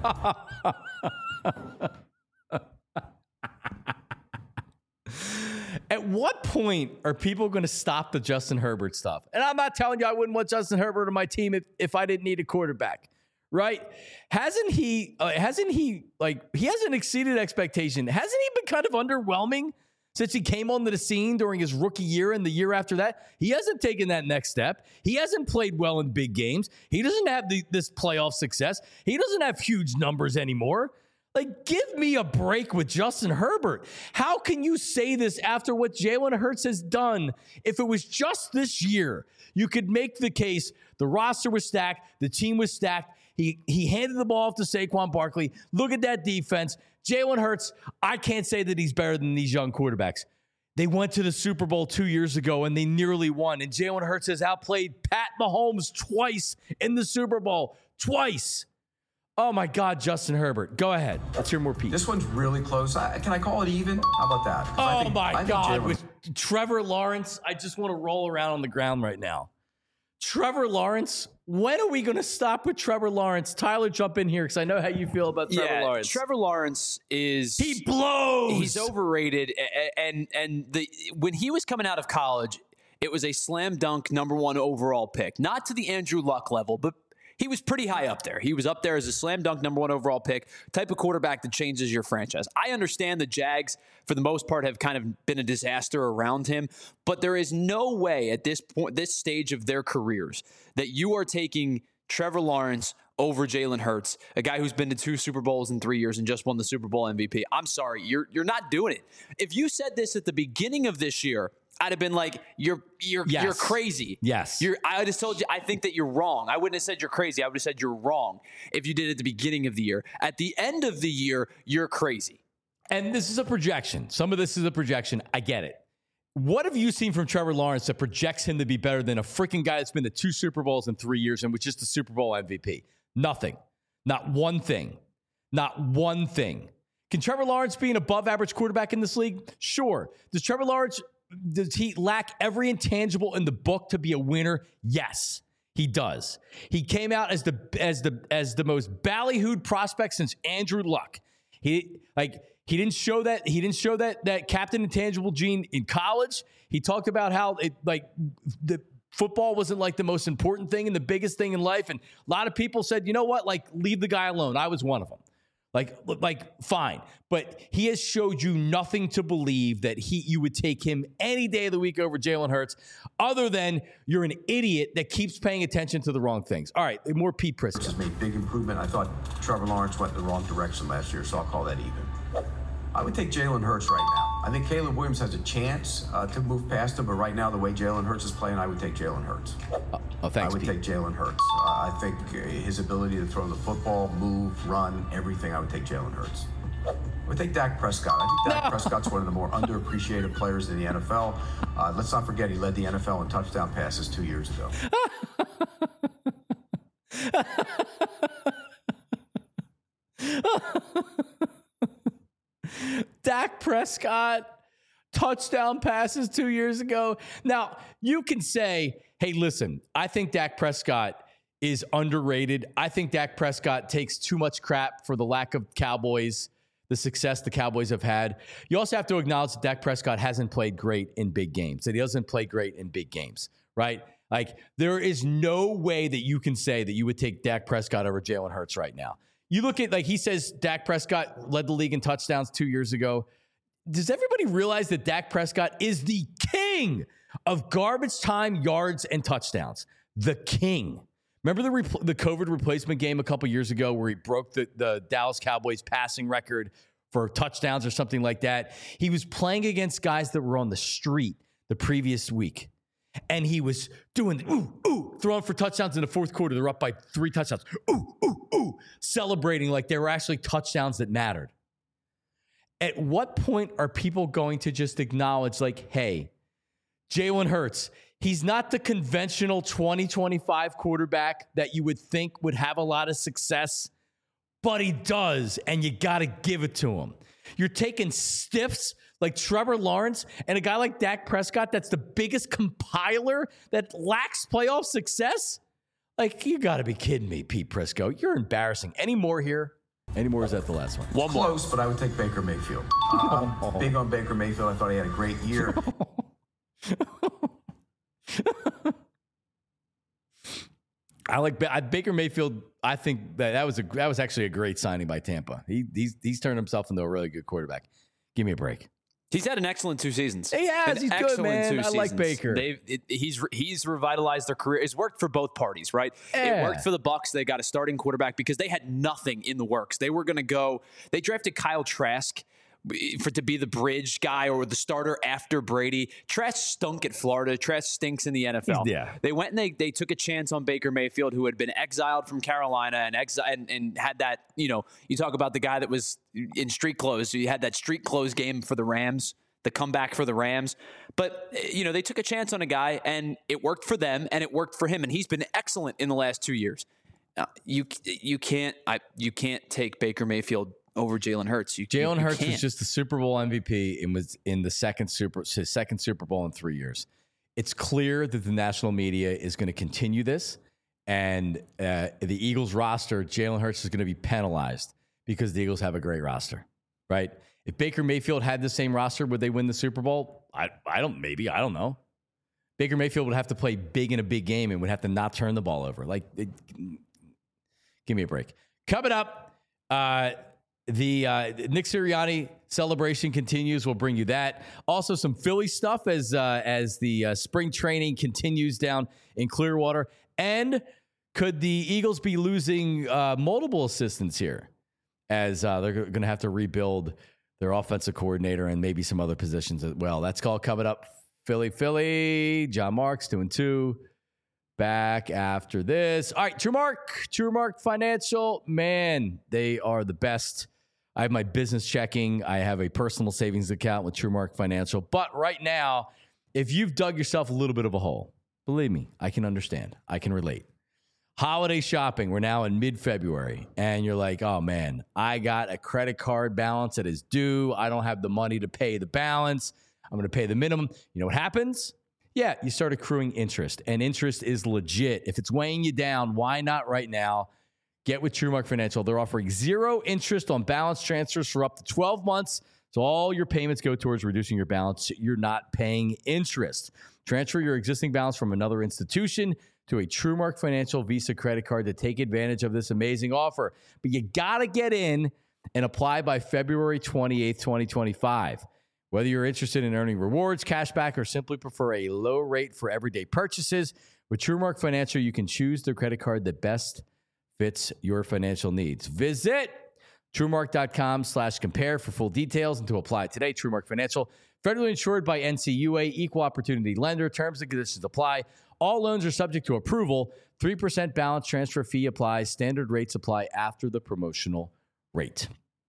At what point are people going to stop the Justin Herbert stuff? And I'm not telling you I wouldn't want Justin Herbert on my team if, if I didn't need a quarterback, right? Hasn't he, uh, hasn't he, like, he hasn't exceeded expectation. Hasn't he been kind of underwhelming since he came onto the scene during his rookie year and the year after that? He hasn't taken that next step. He hasn't played well in big games. He doesn't have the, this playoff success. He doesn't have huge numbers anymore. Like, give me a break with Justin Herbert. How can you say this after what Jalen Hurts has done? If it was just this year, you could make the case the roster was stacked, the team was stacked. He, he handed the ball off to Saquon Barkley. Look at that defense. Jalen Hurts, I can't say that he's better than these young quarterbacks. They went to the Super Bowl two years ago, and they nearly won. And Jalen Hurts has outplayed Pat Mahomes twice in the Super Bowl. Twice. Oh, my God, Justin Herbert. Go ahead. Let's hear more Pete. This one's really close. I, can I call it even? How about that? Oh, think, my God. Jalen... With Trevor Lawrence, I just want to roll around on the ground right now. Trevor Lawrence, when are we going to stop with Trevor Lawrence? Tyler, jump in here because I know how you feel about Trevor yeah, Lawrence. Trevor Lawrence is... He blows! He's overrated. And, and the when he was coming out of college, it was a slam dunk number one overall pick. Not to the Andrew Luck level, but he was pretty high up there. He was up there as a slam dunk number one overall pick, type of quarterback that changes your franchise. I understand the Jags, for the most part, have kind of been a disaster around him, but there is no way at this point, this stage of their careers, that you are taking Trevor Lawrence over Jalen Hurts, a guy who's been to two Super Bowls in three years and just won the Super Bowl M V P. I'm sorry, you're you're not doing it. If you said this at the beginning of this year, I'd have been like, you're you're yes. you're crazy. Yes. You're I would have told you I think that you're wrong. I wouldn't have said you're crazy. I would have said you're wrong if you did it at the beginning of the year. At the end of the year, you're crazy. And this is a projection. Some of this is a projection. I get it. What have you seen from Trevor Lawrence that projects him to be better than a freaking guy that's been to two Super Bowls in three years and was just the Super Bowl M V P? Nothing. Not one thing. Not one thing. Can Trevor Lawrence be an above average quarterback in this league? Sure. Does Trevor Lawrence, does he lack every intangible in the book to be a winner? Yes, he does. He came out as the as the as the most ballyhooed prospect since Andrew Luck. He like he didn't show that he didn't show that that captain intangible gene in college. He talked about how it like the football wasn't like the most important thing and the biggest thing in life. And a lot of people said, you know what, like leave the guy alone. I was one of them. Like, like, fine. But he has showed you nothing to believe that he you would take him any day of the week over Jalen Hurts, other than you're an idiot that keeps paying attention to the wrong things. All right, more Pete Prisco. Just made big improvement. I thought Trevor Lawrence went in the wrong direction last year, so I'll call that even. I would take Jalen Hurts right now. I think Caleb Williams has a chance uh, to move past him, but right now, the way Jalen Hurts is playing, I would take Jalen Hurts. Uh, oh, thanks, I would Pete. take Jalen Hurts. Uh, I think his ability to throw the football, move, run, everything, I would take Jalen Hurts. I would take Dak Prescott. I think Dak no. Prescott's one of the more underappreciated players in the N F L. Uh, let's not forget he led the N F L in touchdown passes two years ago. Dak Prescott touchdown passes two years ago. Now, you can say, hey, listen, I think Dak Prescott is underrated. I think Dak Prescott takes too much crap for the lack of Cowboys, the success the Cowboys have had. You also have to acknowledge that Dak Prescott hasn't played great in big games, that he doesn't play great in big games, right? Like, there is no way that you can say that you would take Dak Prescott over Jalen Hurts right now. You look at, like, he says Dak Prescott led the league in touchdowns two years ago. Does everybody realize that Dak Prescott is the king of garbage time yards and touchdowns? The king. Remember the repl- the COVID replacement game a couple years ago where he broke the, the Dallas Cowboys passing record for touchdowns or something like that? He was playing against guys that were on the street the previous week. And he was doing, ooh, ooh, throwing for touchdowns in the fourth quarter. They're up by three touchdowns. Ooh, ooh, ooh, celebrating like they were actually touchdowns that mattered. At what point are people going to just acknowledge, like, hey, Jalen Hurts, he's not the conventional twenty twenty-five quarterback that you would think would have a lot of success, but he does, and you got to give it to him. You're taking stiffs like Trevor Lawrence and a guy like Dak Prescott that's the biggest compiler that lacks playoff success? Like, you got to be kidding me, Pete Prisco. You're embarrassing. Any more here? Any more? Is that the last one? One more. Close, but I would take Baker Mayfield. Uh, I'm big on Baker Mayfield. I thought he had a great year. I like Baker Mayfield. I think that that was a that was actually a great signing by Tampa. He he's he's turned himself into a really good quarterback. Give me a break. He's had an excellent two seasons. He has. He's good, man. I like Baker. They've, it, he's he's revitalized their career. It's worked for both parties, right? Yeah. It worked for the Bucs. They got a starting quarterback because they had nothing in the works. They were going to go. They drafted Kyle Trask for to be the bridge guy or the starter after Brady. Trask stunk at Florida. Trask stinks in the N F L. Yeah. They went and they they took a chance on Baker Mayfield, who had been exiled from Carolina and exi- and, and had that, you know, you talk about the guy that was in street clothes. So you had that street clothes game for the Rams, the comeback for the Rams. But, you know, they took a chance on a guy and it worked for them and it worked for him. And he's been excellent in the last two years. Uh, you you can't I you can't take Baker Mayfield over Jalen Hurts. You, Jalen you, you Hurts can't. was just the Super Bowl M V P and was in the second Super his second Super Bowl in three years. It's clear that the national media is going to continue this, and uh, the Eagles roster, Jalen Hurts is going to be penalized because the Eagles have a great roster, right? If Baker Mayfield had the same roster, would they win the Super Bowl? I I don't maybe I don't know. Baker Mayfield would have to play big in a big game and would have to not turn the ball over. Like, it, give me a break. Coming up, uh, the uh, Nick Sirianni celebration continues. We'll bring you that. Also, some Philly stuff as uh, as the uh, spring training continues down in Clearwater. And could the Eagles be losing uh, multiple assistants here as uh, they're going to have to rebuild their offensive coordinator and maybe some other positions as well? That's called coming up. Philly, Philly. John Marks, two and two. Back after this. All right, TrueMark. TrueMark Financial. Man, they are the best. I have my business checking. I have a personal savings account with TrueMark Financial. But right now, if you've dug yourself a little bit of a hole, believe me, I can understand. I can relate. Holiday shopping. We're now in mid-February. And you're like, oh, man, I got a credit card balance that is due. I don't have the money to pay the balance. I'm going to pay the minimum. You know what happens? Yeah, you start accruing interest. And interest is legit. If it's weighing you down, why not right now? Get with TrueMark Financial. They're offering zero interest on balance transfers for up to twelve months. So all your payments go towards reducing your balance. You're not paying interest. Transfer your existing balance from another institution to a TrueMark Financial Visa credit card to take advantage of this amazing offer. But you got to get in and apply by February twenty-eighth, twenty twenty-five. Whether you're interested in earning rewards, cash back, or simply prefer a low rate for everyday purchases, with TrueMark Financial, you can choose the credit card that best fits your financial needs. Visit TrueMark.com slash compare for full details and to apply today. TrueMark Financial, federally insured by N C U A, equal opportunity lender. Terms and conditions apply. All loans are subject to approval. three percent balance transfer fee applies. Standard rates apply after the promotional rate.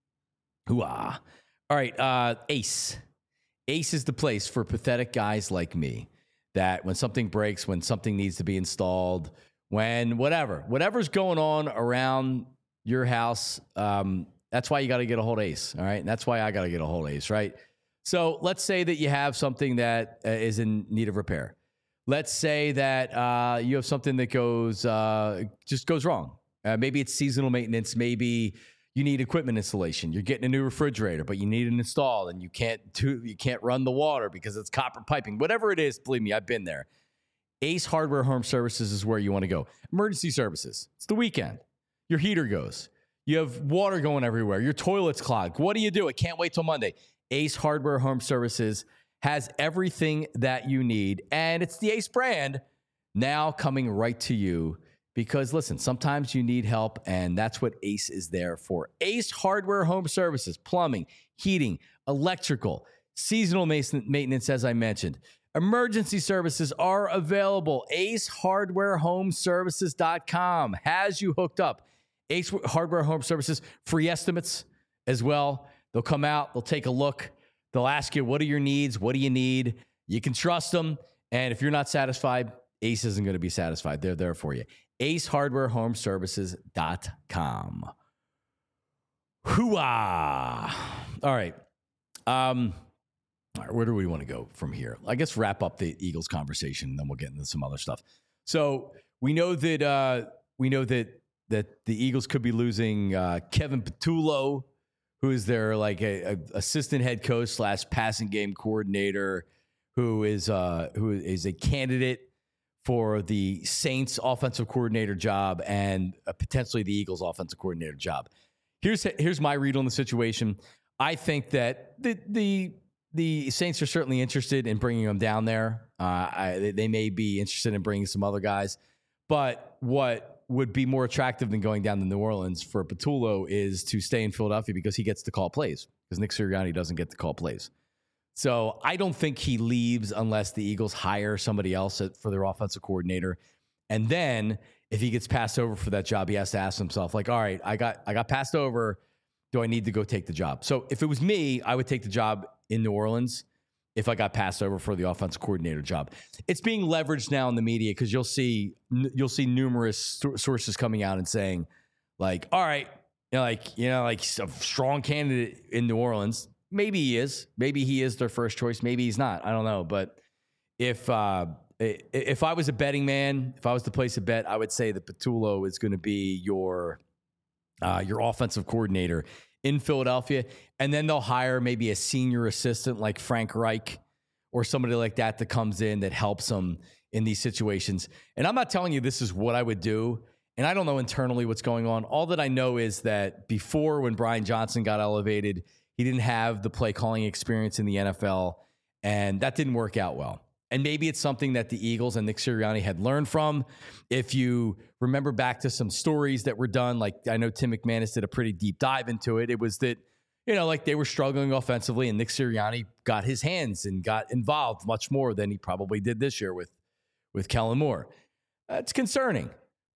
Hoo-ah. All right, uh, Ace. Ace is the place for pathetic guys like me that when something breaks, when something needs to be installed, when whatever, whatever's going on around your house, um, That's why you got to get a hold of Ace. All right. And that's why I got to get a hold of Ace. Right. So let's say that you have something that uh, is in need of repair. Let's say that uh, you have something that goes uh, just goes wrong. Uh, maybe it's seasonal maintenance. Maybe you need equipment installation. You're getting a new refrigerator, but you need it installed, and you can't do, you can't run the water because it's copper piping. Whatever it is, believe me, I've been there. Ace Hardware Home Services is where you want to go. Emergency services. It's the weekend. Your heater goes. You have water going everywhere. Your toilet's clogged. What do you do? I can't wait till Monday. Ace Hardware Home Services has everything that you need, and it's the Ace brand now coming right to you because, listen, sometimes you need help, and that's what Ace is there for. Ace Hardware Home Services, plumbing, heating, electrical, seasonal maintenance, as I mentioned. Emergency services are available. Ace Hardware Home Services dot com has you hooked up. Ace Hardware Home Services, free estimates as well. They'll come out, they'll take a look. They'll ask you, what are your needs? What do you need? You can trust them. And if you're not satisfied, Ace isn't going to be satisfied. They're there for you. Ace Hardware Home Services dot com. Hooah! All right. Um, all right. Where do we want to go from here? I guess wrap up the Eagles conversation, and then we'll get into some other stuff. So we know that uh, we know that that the Eagles could be losing uh, Kevin Patullo, who is their like a, a assistant head coach slash passing game coordinator, who is uh, who is a candidate for the Saints offensive coordinator job and uh, potentially the Eagles offensive coordinator job. Here's here's my read on the situation. I think that the the the Saints are certainly interested in bringing him down there. Uh, I, they may be interested in bringing some other guys, but what would be more attractive than going down to New Orleans for Patullo is to stay in Philadelphia because he gets to call plays, because Nick Sirianni doesn't get to call plays. So I don't think he leaves unless the Eagles hire somebody else for their offensive coordinator. And then if he gets passed over for that job, he has to ask himself, like, all right, I got I got passed over. Do I need to go take the job? So if it was me, I would take the job in New Orleans if I got passed over for the offensive coordinator job. It's being leveraged now in the media because you'll see you'll see numerous sources coming out and saying, like, all right, you know, like, you know, like a strong candidate in New Orleans. Maybe he is. Maybe he is their first choice. Maybe he's not. I don't know. But if uh, if I was a betting man, if I was to place a bet, I would say that Patullo is going to be your uh, your offensive coordinator in Philadelphia. And then they'll hire maybe a senior assistant like Frank Reich or somebody like that that comes in that helps them in these situations. And I'm not telling you this is what I would do. And I don't know internally what's going on. All that I know is that before, when Brian Johnson got elevated, he didn't have the play calling experience in the N F L, and that didn't work out well. And maybe it's something that the Eagles and Nick Sirianni had learned from. If you remember back to some stories that were done, like I know Tim McManus did a pretty deep dive into it. It was that, you know, like they were struggling offensively, and Nick Sirianni got his hands and got involved much more than he probably did this year with, with Kellen Moore. It's concerning,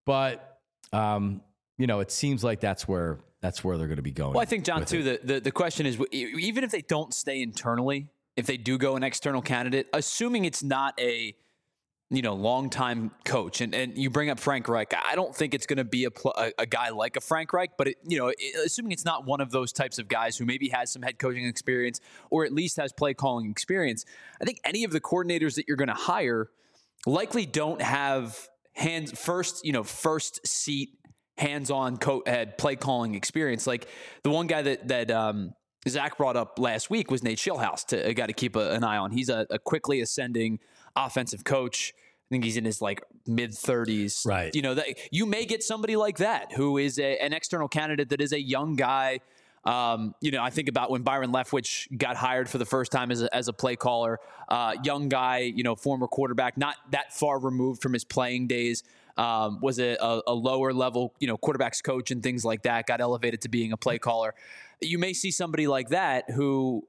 but um, you know, it seems like that's where that's where they're going to be going. Well, I think, John, too, the, the the question is, even if they don't stay internally, if they do go an external candidate, assuming it's not a, you know, longtime coach, and, and you bring up Frank Reich, I don't think it's going to be a, a, a guy like a Frank Reich, but, it, you know, it, assuming it's not one of those types of guys who maybe has some head coaching experience or at least has play calling experience, I think any of the coordinators that you're going to hire likely don't have hands first, you know, first seat, hands-on co- head play calling experience. Like the one guy that, that, um, Zach brought up last week was Nate Schillhouse, to a guy to keep a, an eye on. He's a, a quickly ascending offensive coach. I think he's in his like mid thirties. Right. You know, that you may get somebody like that who is a, an external candidate that is a young guy. Um, you know, I think about when Byron Leftwich got hired for the first time as a, as a play caller, uh, young guy, you know, former quarterback, not that far removed from his playing days. Um, was a, a, a lower level, you know, quarterbacks coach and things like that, got elevated to being a play caller. You may see somebody like that who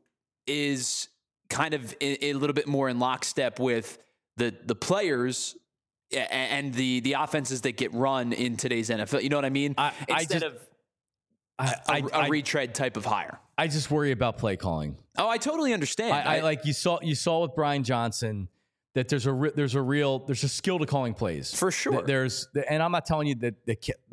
is kind of a, a little bit more in lockstep with the the players and the the offenses that get run in today's N F L. You know what I mean? I, Instead I just, of I, a, I, a I, retread type of hire. I just worry about play calling. Oh, I totally understand. I, I, I like you saw you saw with Brian Johnson that there's a there's a real there's a skill to calling plays for sure. There's and I'm not telling you that the like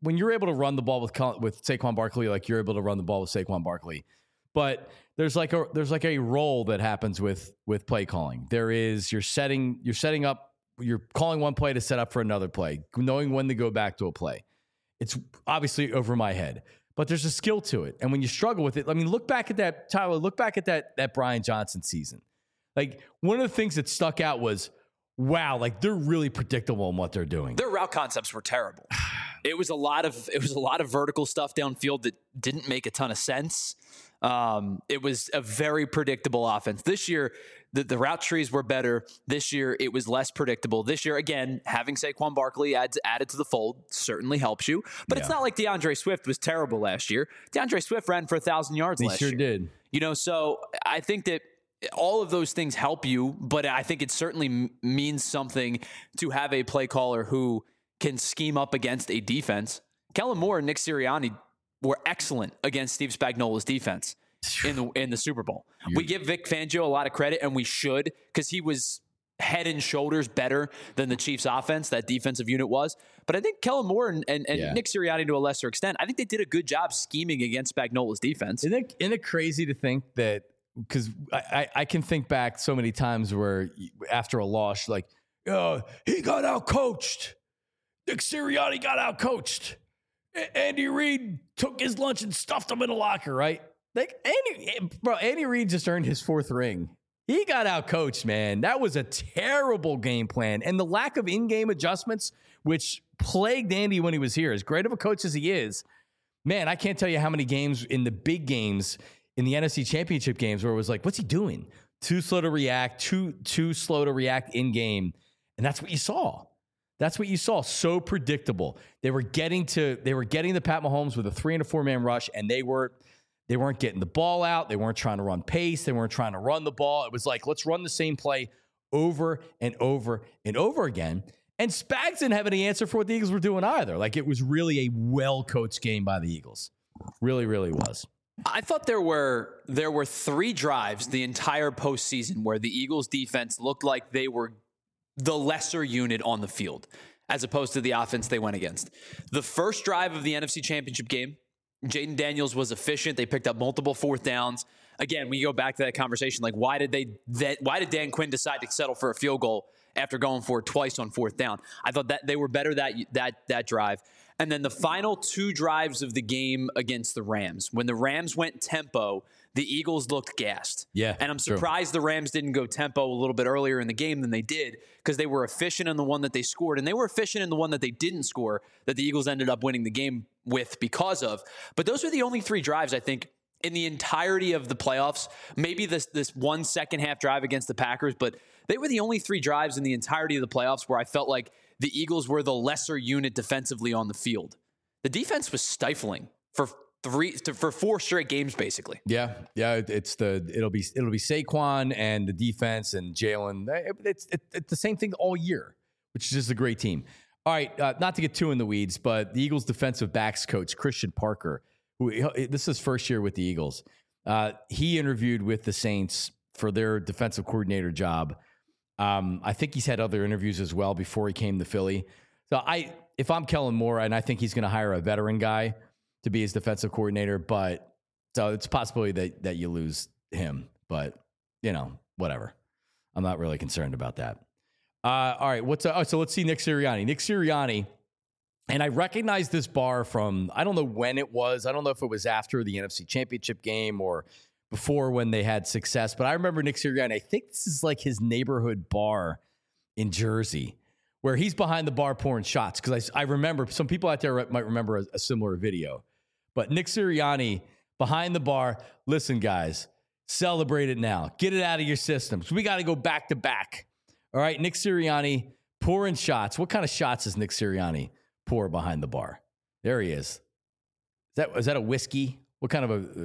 when you're able to run the ball with with Saquon Barkley, like you're able to run the ball with Saquon Barkley, but there's like a there's like a role that happens with with play calling. There is you're setting you're setting up you're calling one play to set up for another play, knowing when to go back to a play. It's obviously over my head, but there's a skill to it. And when you struggle with it, I mean, look back at that, Tyler, look back at that that Brian Johnson season. Like, one of the things that stuck out was, wow, like they're really predictable in what they're doing. Their route concepts were terrible. It was a lot of it was a lot of vertical stuff downfield that didn't make a ton of sense. Um, it was a very predictable offense. This year, the, the route trees were better. This year, it was less predictable. This year, again, having Saquon Barkley adds, added to the fold certainly helps you. But yeah. It's not like DeAndre Swift was terrible last year. DeAndre Swift ran for one thousand yards he last sure year. He sure did. You know, so I think that all of those things help you, but I think it certainly m- means something to have a play caller who can scheme up against a defense. Kellen Moore and Nick Sirianni were excellent against Steve Spagnuolo's defense in the in the Super Bowl. You're, we give Vic Fangio a lot of credit, and we should, because he was head and shoulders better than the Chiefs' offense, that defensive unit was. But I think Kellen Moore and, and, and yeah. Nick Sirianni, to a lesser extent, I think they did a good job scheming against Spagnuolo's defense. Isn't it, isn't it crazy to think that, because I, I, I can think back so many times where after a loss, like, oh, he got out-coached. Nick Sirianni got out-coached. Andy Reid took his lunch and stuffed him in a locker, right? Like Andy, bro, Andy Reid just earned his fourth ring. He got out-coached, man. That was a terrible game plan. And the lack of in-game adjustments, which plagued Andy when he was here, as great of a coach as he is, man, I can't tell you how many games in the big games, in the N F C Championship games, where it was like, what's he doing? Too slow to react, too, too slow to react in-game. And that's what you saw. That's what you saw. So predictable. They were getting to, they were getting to Pat Mahomes with a three and a four man rush, and they were, they weren't getting the ball out. They weren't trying to run pace. They weren't trying to run the ball. It was like, let's run the same play over and over and over again. And Spags didn't have any answer for what the Eagles were doing either. Like, it was really a well-coached game by the Eagles. Really, really was. I thought there were there were three drives the entire postseason where the Eagles defense looked like they were the lesser unit on the field, as opposed to the offense they went against. The first drive of the N F C Championship game, Jaden Daniels was efficient. They picked up multiple fourth downs. Again, we go back to that conversation, like why did they that why did Dan Quinn decide to settle for a field goal after going for it twice on fourth down? I thought that they were better that that that drive. And then the final two drives of the game against the Rams, when the Rams went tempo, the Eagles looked gassed. Yeah, and I'm surprised true. the Rams didn't go tempo a little bit earlier in the game than they did, because they were efficient in the one that they scored, and they were efficient in the one that they didn't score that the Eagles ended up winning the game with because of. But those were the only three drives, I think, in the entirety of the playoffs. Maybe this this one second half drive against the Packers, but they were the only three drives in the entirety of the playoffs where I felt like the Eagles were the lesser unit defensively on the field. The defense was stifling for three for four straight games, basically. Yeah, yeah. It's the it'll be it'll be Saquon and the defense and Jalen. It's it, it's the same thing all year, which is just a great team. All right, uh, not to get too in the weeds, but the Eagles defensive backs coach Christian Parker, who this is his first year with the Eagles, uh, he interviewed with the Saints for their defensive coordinator job. Um, I think he's had other interviews as well before he came to Philly. So I, if I'm Kellen Moore, and I think he's going to hire a veteran guy to be his defensive coordinator, but so it's a possibility that that you lose him. But you know, whatever. I'm not really concerned about that. Uh, all right, what's uh, oh, so let's see Nick Sirianni. Nick Sirianni, and I recognize this bar from I don't know when it was. I don't know if it was after the N F C Championship game or before when they had success, but I remember Nick Sirianni. I think this is like his neighborhood bar in Jersey, where he's behind the bar pouring shots. Because I, I remember some people out there might remember a, a similar video. But Nick Sirianni behind the bar. Listen, guys, celebrate it now. Get it out of your systems. We got to go back to back. All right, Nick Sirianni pouring shots. What kind of shots does Nick Sirianni pour behind the bar? There he is. Is that is that a whiskey? What kind of a?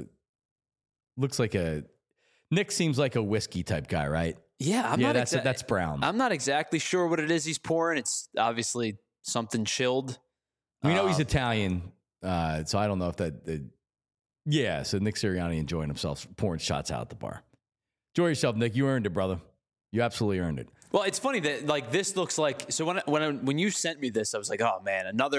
Looks like a. Nick seems like a whiskey type guy, right? Yeah, I'm yeah, not that's exa- that's brown. I'm not exactly sure what it is he's pouring. It's obviously something chilled. We know uh, he's Italian, uh, so I don't know if that. Uh, yeah, so Nick Sirianni enjoying himself, pouring shots out at the bar. Enjoy yourself, Nick. You earned it, brother. You absolutely earned it. Well, it's funny that like this looks like so when I, when I, when you sent me this, I was like, oh man, another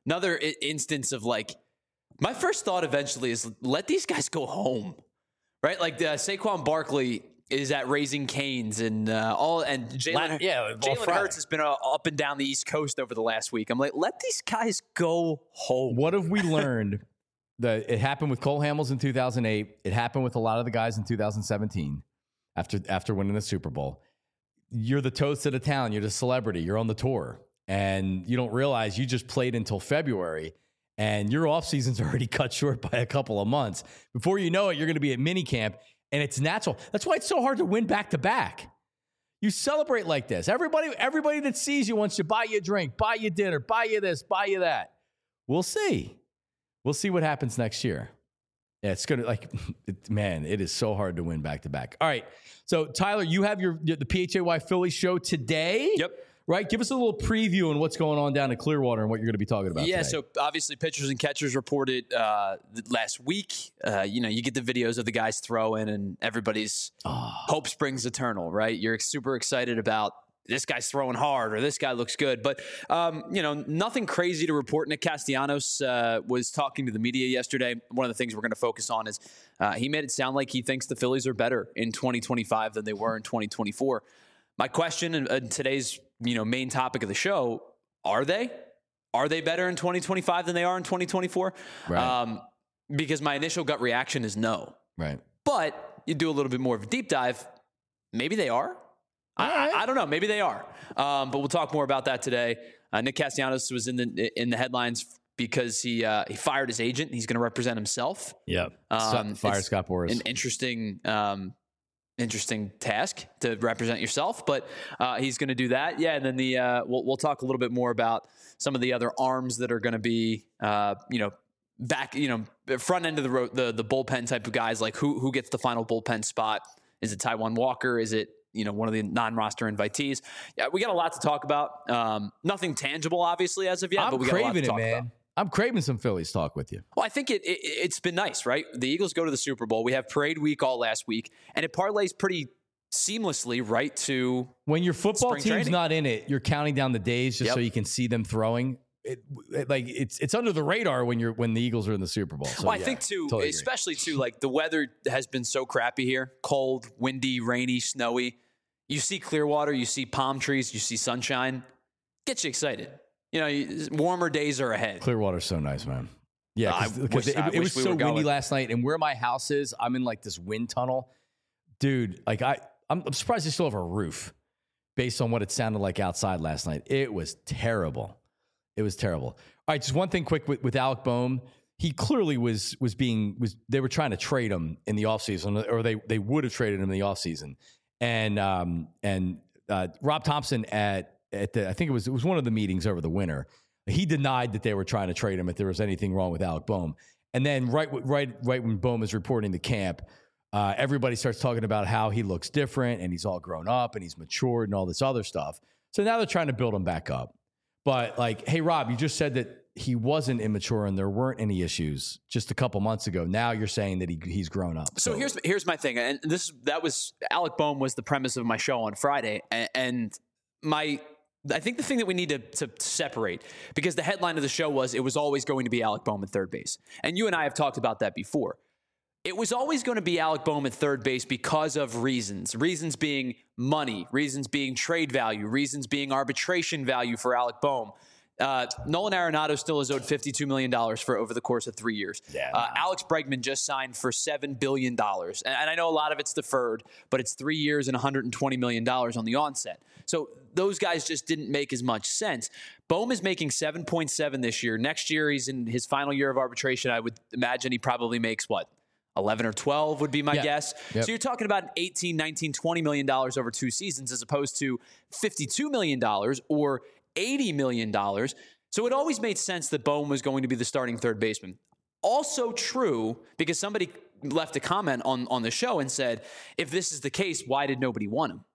another I- instance of like, my first thought eventually is let these guys go home, right? Like uh, Saquon Barkley is at Raising Cane's and uh, all, and Jalen yeah, Jalen Hurts has been uh, up and down the East Coast over the last week. I'm like, let these guys go home. What have we learned? That it happened with Cole Hamels in two thousand eight. It happened with a lot of the guys in two thousand seventeen after after winning the Super Bowl. You're the toast of the town. You're the celebrity. You're on the tour. And you don't realize you just played until February and your off season's already cut short by a couple of months. Before you know it, you're going to be at minicamp, and it's natural. That's why it's so hard to win back to back. You celebrate like this. Everybody, everybody that sees you wants to buy you a drink, buy you dinner, buy you this, buy you that. We'll see. We'll see what happens next year. Yeah, it's going to like, it, man, it is so hard to win back to back. All right. So Tyler, you have your, the P H A Y Philly show today. Yep. Right? Give us a little preview on what's going on down in Clearwater and what you're going to be talking about Yeah, today. so obviously pitchers and catchers reported uh, last week. Uh, you know, you get the videos of the guys throwing and everybody's oh. hope springs eternal, right? You're super excited about this guy's throwing hard or this guy looks good. But, um, you know, nothing crazy to report. Nick Castellanos uh, was talking to the media yesterday. One of the things we're going to focus on is uh, he made it sound like he thinks the Phillies are better in twenty twenty-five than they were in twenty twenty-four. My question in, in today's, you know, main topic of the show, are they? Are they better in twenty twenty-five than they are in twenty twenty-four? Right. Um, because my initial gut reaction is no. Right. But you do a little bit more of a deep dive, maybe they are. I, right. I, I don't know. Maybe they are. Um, but we'll talk more about that today. Uh, Nick Castellanos was in the in the headlines because he uh, he fired his agent. He's going to represent himself. Yep. Um, Fire Scott Boras. An interesting um, interesting task to represent yourself, but uh, he's going to do that. Yeah, and then the uh, we'll we'll talk a little bit more about some of the other arms that are going to be uh, you know back you know front end of the road, the the bullpen type of guys. Like who who gets the final bullpen spot? Is it Taijuan Walker? Is it you know, one of the non-roster invitees? Yeah, we got a lot to talk about. Um, nothing tangible, obviously, as of yet, I'm but we got a lot to it, talk man. about. I'm craving some Phillies talk with you. Well, I think it, it, it's been nice, right? The Eagles go to the Super Bowl. We have parade week all last week, and it parlays pretty seamlessly right to when your football spring team's training. not in it, you're counting down the days just Yep. so you can see them throwing. It, it, like it's it's under the radar when you're when the Eagles are in the Super Bowl. So, well, I yeah, think too, totally especially too, like the weather has been so crappy here: cold, windy, rainy, snowy. You see Clearwater, you see palm trees, you see sunshine. Gets you excited. You know, you, warmer days are ahead. Clearwater's so nice, man. Yeah, I because wish- it, I it was wish we so were windy going. last night, and where my house is, I'm in like this wind tunnel, dude. Like I, I'm, I'm surprised they still have a roof, based on what it sounded like outside last night. It was terrible. It was terrible. All right, just one thing quick with, with Alec Boehm. He clearly was was being was they were trying to trade him in the offseason, or they they would have traded him in the offseason. And um and uh, Rob Thompson at at the I think it was it was one of the meetings over the winter. He denied that they were trying to trade him if there was anything wrong with Alec Boehm. And then right right right when Boehm is reporting to camp, uh, everybody starts talking about how he looks different and he's all grown up and he's matured and all this other stuff. So now they're trying to build him back up. But like, hey Rob, you just said that he wasn't immature and there weren't any issues just a couple months ago. Now you're saying that he he's grown up. So, so here's here's my thing, and this that was Alec Boehm was the premise of my show on Friday, and, and my I think the thing that we need to, to separate, because the headline of the show was it was always going to be Alec Boehm at third base, and you and I have talked about that before. It was always going to be Alec Boehm at third base because of reasons. Reasons being money, reasons being trade value, reasons being arbitration value for Alec Boehm. Uh, Nolan Arenado still is owed fifty-two million dollars for over the course of three years. Yeah, uh, Alex Bregman just signed for seven billion dollars. And, and I know a lot of it's deferred, but it's three years and one hundred twenty million dollars on the onset. So those guys just didn't make as much sense. Boehm is making seven point seven this year. Next year, he's in his final year of arbitration. I would imagine he probably makes what? eleven or twelve would be my yeah. guess. Yep. So you're talking about eighteen, nineteen, twenty million dollars over two seasons as opposed to fifty-two million dollars or eighty million dollars. So it always made sense that Boehm was going to be the starting third baseman. Also true, because somebody left a comment on, on the show and said, if this is the case, why did nobody want him?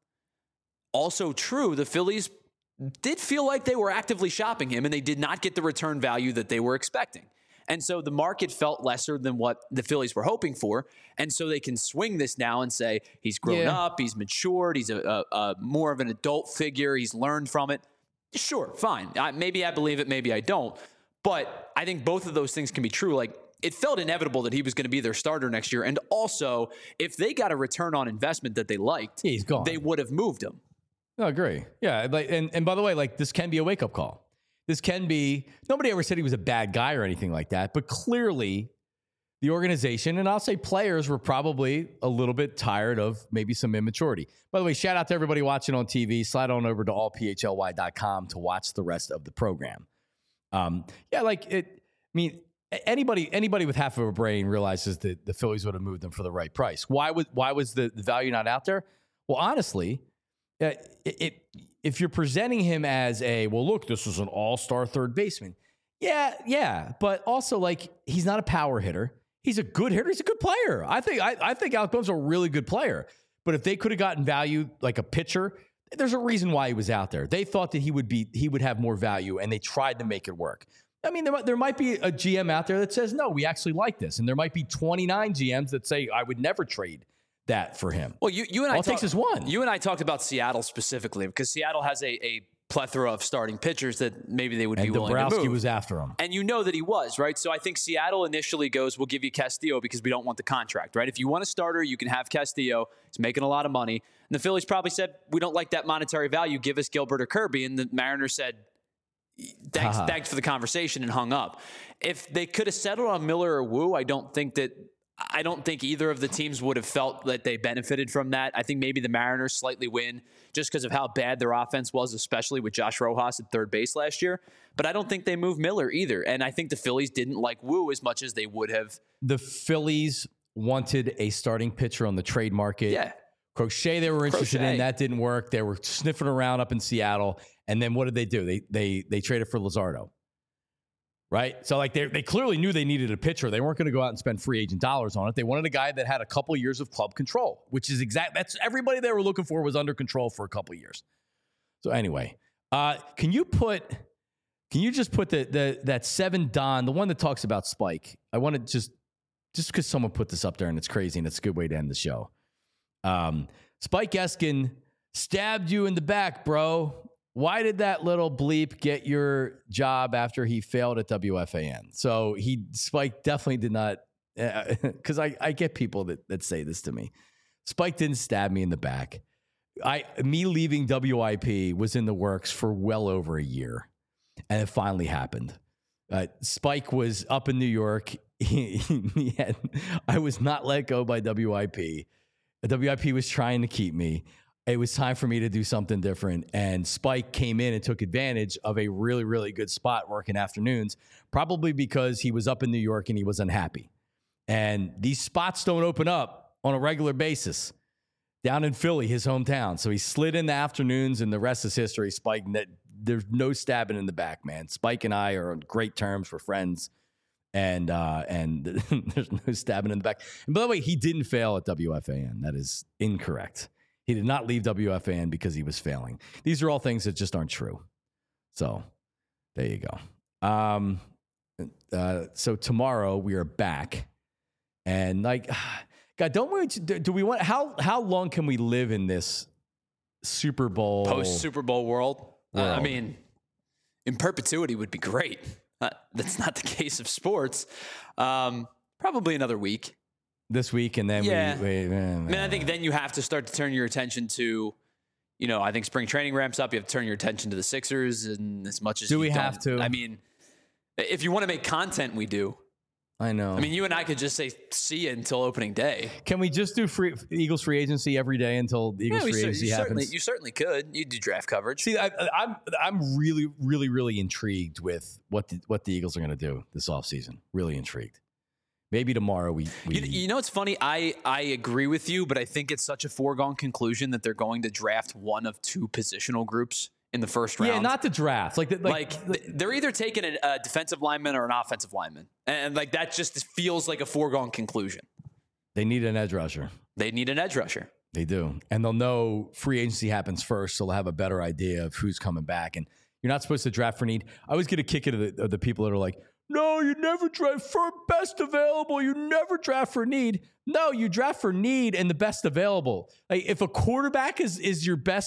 Also true, the Phillies did feel like they were actively shopping him and they did not get the return value that they were expecting. And so the market felt lesser than what the Phillies were hoping for. And so they can swing this now and say, he's grown Yeah. up, he's matured, he's a, a, a more of an adult figure, he's learned from it. Sure, fine. I, maybe I believe it, maybe I don't. But I think both of those things can be true. Like, it felt inevitable that he was going to be their starter next year. And also, if they got a return on investment that they liked, yeah, he's gone. They would have moved him. I agree. Yeah. Like, and, and by the way, like, this can be a wake-up call. This can be, nobody ever said he was a bad guy or anything like that, but clearly the organization, and I'll say players, were probably a little bit tired of maybe some immaturity. By the way, shout out to everybody watching on T V. Slide on over to all p h l y dot com to watch the rest of the program. Um, yeah, like it, I mean, anybody anybody with half of a brain realizes that the Phillies would have moved them for the right price. Why would why was the, the value not out there? Well, honestly, uh, it, it if you're presenting him as a, well, look, this is an all-star third baseman. Yeah, yeah, but also, like, he's not a power hitter. He's a good hitter. He's a good player. I think I, I think Alec Bohm's a really good player. But if they could have gotten value like a pitcher, there's a reason why he was out there. They thought that he would be he would have more value, and they tried to make it work. I mean, there, there might be a G M out there that says, no, we actually like this. And there might be twenty-nine G Ms that say, I would never trade that for him. Well, you, you and I All it takes is one. You and I talked about Seattle specifically because Seattle has a, a plethora of starting pitchers that maybe they would and be willing Dombrowski to move. was after him. And you know that he was, right? So I think Seattle initially goes, we'll give you Castillo because we don't want the contract, right? If you want a starter, you can have Castillo. He's making a lot of money. And the Phillies probably said, we don't like that monetary value. Give us Gilbert or Kirby. And the Mariners said, thanks, uh-huh. thanks for the conversation, and hung up. If they could have settled on Miller or Wu, I don't think that I don't think either of the teams would have felt that they benefited from that. I think maybe the Mariners slightly win just because of how bad their offense was, especially with Josh Rojas at third base last year. But I don't think they moved Miller either. And I think the Phillies didn't like Wu as much as they would have. The Phillies wanted a starting pitcher on the trade market. Yeah. Crochet they were interested Crochet. in. That didn't work. They were sniffing around up in Seattle. And then what did they do? They they they traded for Luzardo. Right? So, like, they they clearly knew they needed a pitcher. They weren't going to go out and spend free agent dollars on it. They wanted a guy that had a couple years of club control, which is exact. That's everybody they were looking for was under control for a couple years. So, anyway, uh, can you put, can you just put the the that seven Don, the one that talks about Spike? I want to just, just because someone put this up there and it's crazy and it's a good way to end the show. Um, Spike Eskin stabbed you in the back, bro. Why did that little bleep get your job after he failed at W F A N? So he, Spike definitely did not, because uh, I, I get people that, that say this to me. Spike didn't stab me in the back. I me leaving W I P was in the works for well over a year, and it finally happened. Uh, Spike was up in New York. He, he had, I was not let go by W I P. The W I P was trying to keep me. It was time for me to do something different. And Spike came in and took advantage of a really, really good spot working afternoons, probably because he was up in New York and he was unhappy. And these spots don't open up on a regular basis down in Philly, his hometown. So he slid in the afternoons, and the rest is history. Spike, there's no stabbing in the back, man. Spike and I are on great terms. We're friends. And uh, and there's no stabbing in the back. And by the way, he didn't fail at W F A N. That is incorrect. He did not leave W F A N because he was failing. These are all things that just aren't true. So there you go. Um, uh, so tomorrow we are back, and like, God, don't we? Do we want how how long can we live in this Super Bowl post Super Bowl world? world? Uh, I mean, in perpetuity would be great. Uh, that's not the case of sports. Um, probably another week. This week, and then yeah. we, we man, I mean, I think then you have to start to turn your attention to, you know, I think spring training ramps up. You have to turn your attention to the Sixers, and as much as do you we don't, have to? I mean, if you want to make content, we do. I know. I mean, you and I could just say see you until opening day. Can we just do free Eagles free agency every day until the Eagles yeah, free cer- agency you happens? Certainly, you certainly could. You do draft coverage. See, I, I'm I'm really, really, really intrigued with what the, what the Eagles are going to do this offseason. Really intrigued. Maybe tomorrow we. we you, you know, it's funny. I, I agree with you, but I think it's such a foregone conclusion that they're going to draft one of two positional groups in the first round. Yeah, not the draft. Like, the, like, like they're either taking a, a defensive lineman or an offensive lineman, and like that just feels like a foregone conclusion. They need an edge rusher. They need an edge rusher. They do, and they'll know free agency happens first, so they'll have a better idea of who's coming back. And you're not supposed to draft for need. I always get a kick out of the, of the people that are like, no, you never draft for best available. You never draft for need. No, you draft for need and the best available. Like if a quarterback is is your best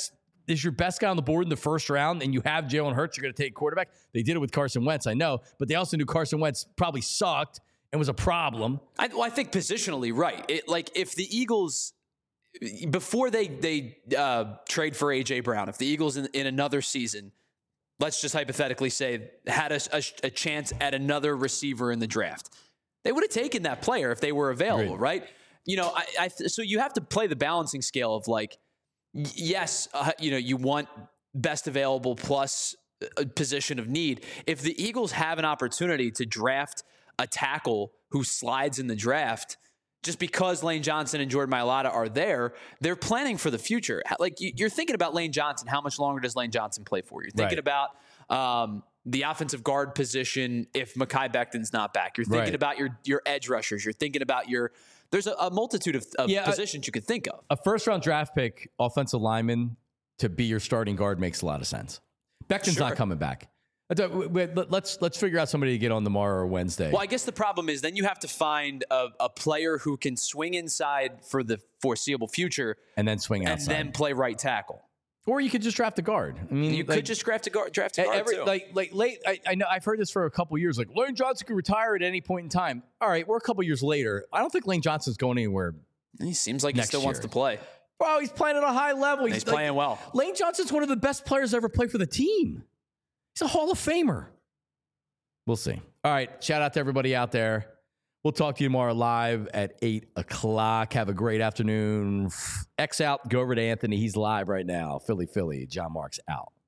is your best guy on the board in the first round and you have Jalen Hurts, you're going to take quarterback. They did it with Carson Wentz, I know, but they also knew Carson Wentz probably sucked and was a problem. I, well, I think positionally, right. It, like if the Eagles, before they they uh, trade for A J Brown, if the Eagles in, in another season, let's just hypothetically say, had a, a, a chance at another receiver in the draft, they would have taken that player if they were available, Great. right? You know, I, I so you have to play the balancing scale of like, yes, uh, you know, you want best available plus a position of need. If the Eagles have an opportunity to draft a tackle who slides in the draft, just because Lane Johnson and Jordan Mailata are there, they're planning for the future. Like you're thinking about Lane Johnson. How much longer does Lane Johnson play for? You're thinking right. about um, the offensive guard position if Mekhi Becton's not back. You're thinking right. about your your edge rushers. You're thinking about your – there's a, a multitude of, of yeah, positions a, you could think of. A first-round draft pick, offensive lineman, to be your starting guard makes a lot of sense. Becton's sure. not coming back. Let's let's figure out somebody to get on tomorrow or Wednesday. Well, I guess the problem is then you have to find a, a player who can swing inside for the foreseeable future and then swing and outside. And then play right tackle. Or you could just draft a guard. I mean, you like, could just draft a guard. Draft a guard every, too. Like like late. I, I know I've heard this for a couple years. Like Lane Johnson could retire at any point in time. All right, we're a couple years later. I don't think Lane Johnson's going anywhere. He seems like he still year. wants to play. Bro, he's playing at a high level. He's, he's playing like, well. Lane Johnson's one of the best players to ever play for the team. He's a Hall of Famer. We'll see. All right. Shout out to everybody out there. We'll talk to you tomorrow live at eight o'clock. Have a great afternoon. X out. Go over to Anthony. He's live right now. Philly, Philly. John Marks out.